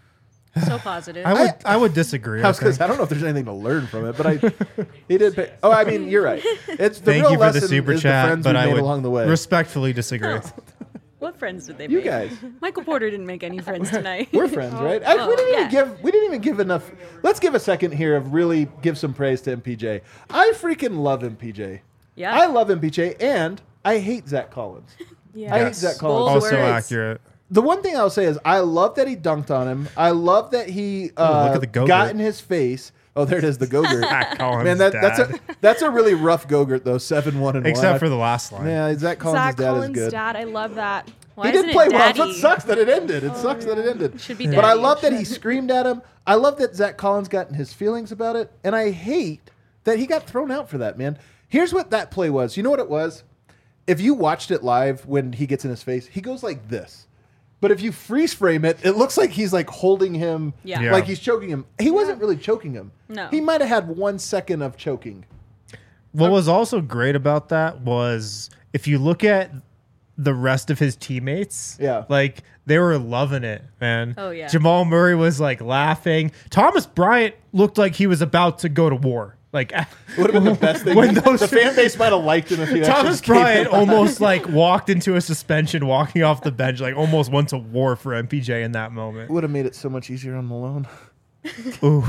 So positive. I would I, would disagree. I I was gonna think. say, I don't know if there's anything to learn from it, but I he did pay. Oh, I mean, you're right. It's the Thank real you for the lesson super is chat, the friends but we I made would along the way. respectfully disagree. What friends did they You make? guys. Michael Porter didn't make any friends tonight. We're friends, right? I, we Oh, didn't even yeah. give we didn't even give enough. Let's give a second here of really give some praise to M P J. I freaking love M P J. Yeah. I love M P J, and I hate Zach Collins. Yeah. I hate Yes. Zach Collins. Bold Also words. accurate. The one thing I'll say is I love that he dunked on him. I love that he uh, look at the Go-Gurt. got in his face. Oh, there it is, the Go-Gurt. Zach Collins' Man, that, that's dad. a that's a really rough Go-Gurt though. Seven one and Except one. for the last line. yeah, Zach Collins' Zach dad Collins' is good. dad. I love that. Why he isn't did play it well. daddy? So it sucks that it ended. It sucks that it ended. Should be But I daddy. love that he screamed at him. I love that Zach Collins got in his feelings about it, and I hate that he got thrown out for that. Man, here's what that play was. You know what it was? If you watched it live when he gets in his face, he goes like this. But if you freeze frame it, it looks like he's like holding him, Yeah. Yeah. like he's choking him. He wasn't really choking him. No. He might have had one second of choking. What was also great about that was if you look at the rest of his teammates, Yeah. like they were loving it, man. Oh, yeah. Jamal Murray was like laughing. Thomas Bryant looked like he was about to go to war. Like Would have been the best thing. When those the fan base might have liked him if he Thomas actually gave Bryant him- almost like walked into a suspension, walking off the bench, like almost went to war for M P J in that moment. would have made it so much easier on Malone. Ooh.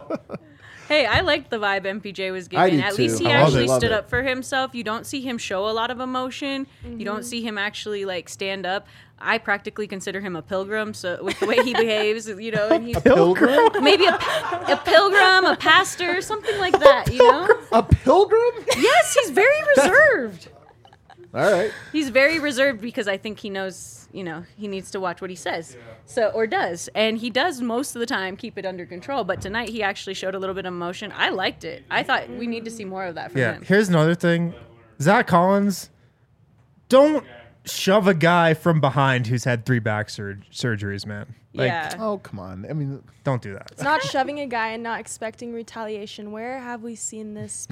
Hey, I liked the vibe M P J was I giving. do At too. least he I love actually it. Love stood it. up for himself. You don't see him show a lot of emotion. You don't see him actually like stand up. I practically consider him a pilgrim. So with the way he behaves, you know, and he's Pilgrim? maybe a, a pilgrim, a pastor, something like that. You know? A pilgrim? Yes, he's very reserved. All right. He's very reserved because I think he knows, you know, he needs to watch what he says. So or does. And he does most of the time keep it under control, but tonight he actually showed a little bit of emotion. I liked it. I thought we need to see more of that from Yeah. him. Here's another thing. Zach Collins, don't shove a guy from behind who's had three back sur- surgeries, man. Like, yeah. Oh, come on. I mean, don't do that. It's not shoving a guy and not expecting retaliation. Where have we seen this?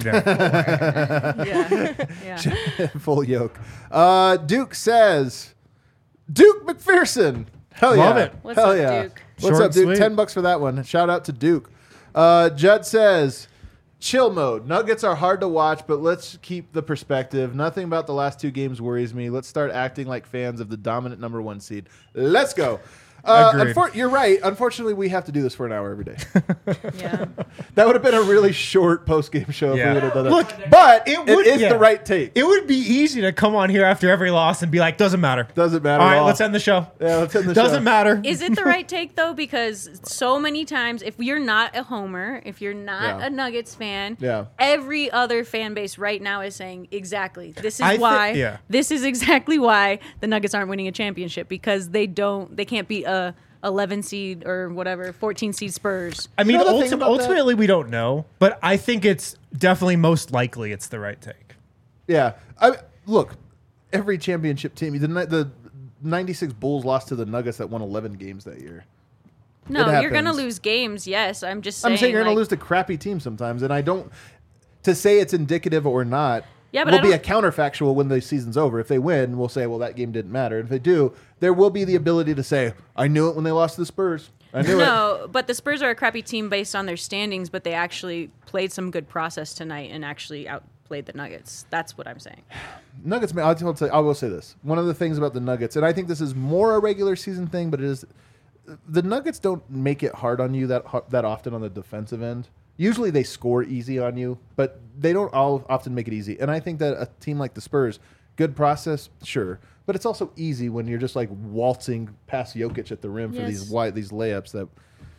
Yeah. Yeah. Yeah. full yoke. Uh, Duke says, Duke McPherson. Hell Love yeah. it. What's Hell up, yeah. Duke? What's Short up, Duke? and sweet. Ten bucks for that one. Shout out to Duke. Uh, Judd says, chill mode. Nuggets are hard to watch, but let's keep the perspective. Nothing about the last two games worries me. Let's start acting like fans of the dominant number one seed. Let's go. Uh, Agreed. unfor- you're right. Unfortunately, we have to do this for an hour every day. Yeah. That would have been a really short post game show if Yeah. we would have done that. Look, but it it, would- it is yeah. the right take. It would be easy to come on here after every loss and be like, doesn't matter. Doesn't matter All at right, all. let's end the show. Yeah, let's end the show. Doesn't matter. Is it the right take though? Because so many times, if you're not a homer, if you're not Yeah. a Nuggets fan, Yeah. every other fan base right now is saying exactly this is I thi- why. yeah. This is exactly why the Nuggets aren't winning a championship because they don't. They can't beat a eleven seed or whatever, fourteen seed Spurs. I mean, You know the thing ulti- about that? ultimately, we don't know, but I think it's definitely most likely it's the right take. Yeah. I look, every championship team, the ni- the ninety-six Bulls lost to the Nuggets that won eleven games that year. No, It you're gonna happens. lose games. Yes, I'm just saying. I'm saying you're going like- to lose to crappy teams sometimes, and I don't. To say it's indicative or not, Yeah, but will I be a don't- counterfactual when the season's over. If they win, we'll say, well, that game didn't matter. And if they do, there will be the ability to say, I knew it when they lost to the Spurs. I knew it. No, but the Spurs are a crappy team based on their standings, but they actually played some good process tonight and actually outplayed the Nuggets. That's what I'm saying. Nuggets, man, I'll tell, tell- I will say this. One of the things about the Nuggets, and I think this is more a regular season thing, but it is the Nuggets don't make it hard on you that ho- that often on the defensive end. Usually they score easy on you, but they don't all often make it easy. And I think that a team like the Spurs, good process, sure, but it's also easy when you're just like waltzing past Jokic at the rim for these Yes. wide these layups that.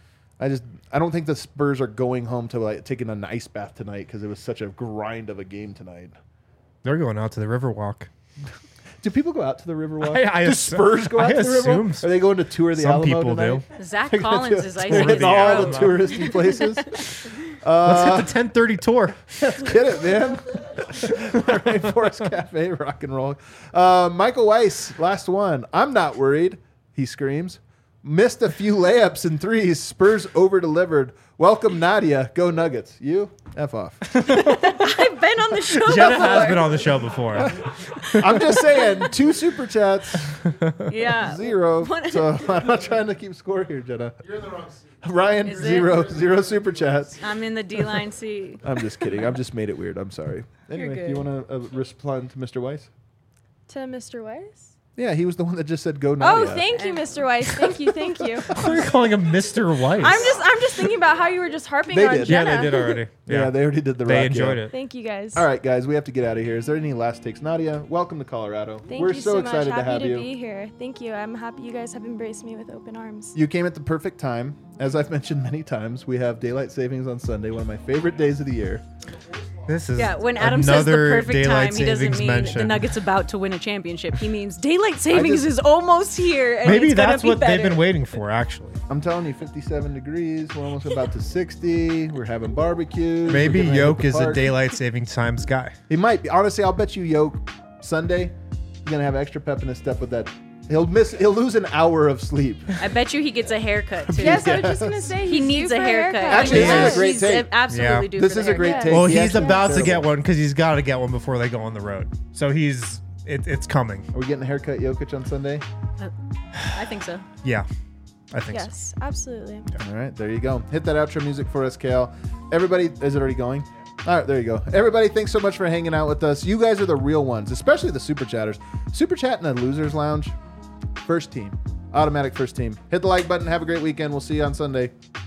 I just I don't think the Spurs are going home to like taking an ice bath tonight because it was such a grind of a game tonight. They're going out to the Riverwalk. Do people go out to the Riverwalk? I- I do assu- Spurs go out I to the Riverwalk? assume so. Are they going to tour the Some Alamo people tonight? do. Zach They're gonna Collins do- is they're icing hitting the all road. the touristy places. Let's hit the ten thirty tour. Let's get it, man. Rainforest Cafe, rock and roll. Uh, Michael Weiss, last one. I'm not worried, he screams. Missed a few layups and threes. Spurs over-delivered. Welcome, Nadia. Go Nuggets. You? F off. I've been on the show Jenna before. has been on the show before. I'm just saying, two super chats, Yeah. zero. What- So I'm not trying to keep score here, Jenna. You're in the wrong seat. Ryan, Is it? zero, zero super chats. I'm in the D line seat. I'm just kidding. I've just made it weird. I'm sorry. Anyway, do you good. want to uh, respond to Mister Weiss? To Mister Weiss? Yeah, he was the one that just said go Oh, Nadia. thank you, Mister Weiss. Thank you, thank you. We're calling him Mister Weiss. I'm just I'm just thinking about how you were just harping They on did. yeah, Jenna. they did already. Yeah, Yeah, they already did the they rock, enjoyed yeah. it. Thank you guys. All right, guys, we have to get out of here. Is there any last takes? Nadia, welcome to Colorado. Thank We're you so, so excited much. to Happy have to you. be here. Thank you. I'm happy you guys have embraced me with open arms. You came at the perfect time. As I've mentioned many times, we have daylight savings on Sunday, one of my favorite days of the year. This is Yeah, when Adam says the another perfect daylight time, he doesn't savings mean mention. the Nuggets about to win a championship. He means daylight savings just- is almost here. And Maybe it's gonna that's be what they've better. been waiting for, actually. I'm telling you, fifty-seven degrees. We're almost about to sixty. We're having barbecues. Maybe We're gonna hit Yoke the is a park. daylight saving times guy. He might be. Honestly, I'll bet you Yoke Sunday, he's gonna have extra pep in his step with that. He'll miss. He'll lose an hour of sleep. I bet you he gets a haircut too. Yes, I was just gonna say He he's needs due a for haircut. Actually, this is a great He's take. absolutely Yeah. due This for is the a great haircut. take. Well, He he's actually- about to terrible. get one because he's got to get one before they go on the road. So he's it, it's coming. Are we getting a haircut, Jokic, on Sunday? I think so. Yeah, I think so. Yes, absolutely. All right, there you go. Hit that outro music for us, Kale. Everybody, is it already going? All right, there you go. Everybody, thanks so much for hanging out with us. You guys are the real ones, especially the super chatters. Super chat in the losers lounge, first team, automatic first team. Hit the like button. Have a great weekend. We'll see you on Sunday.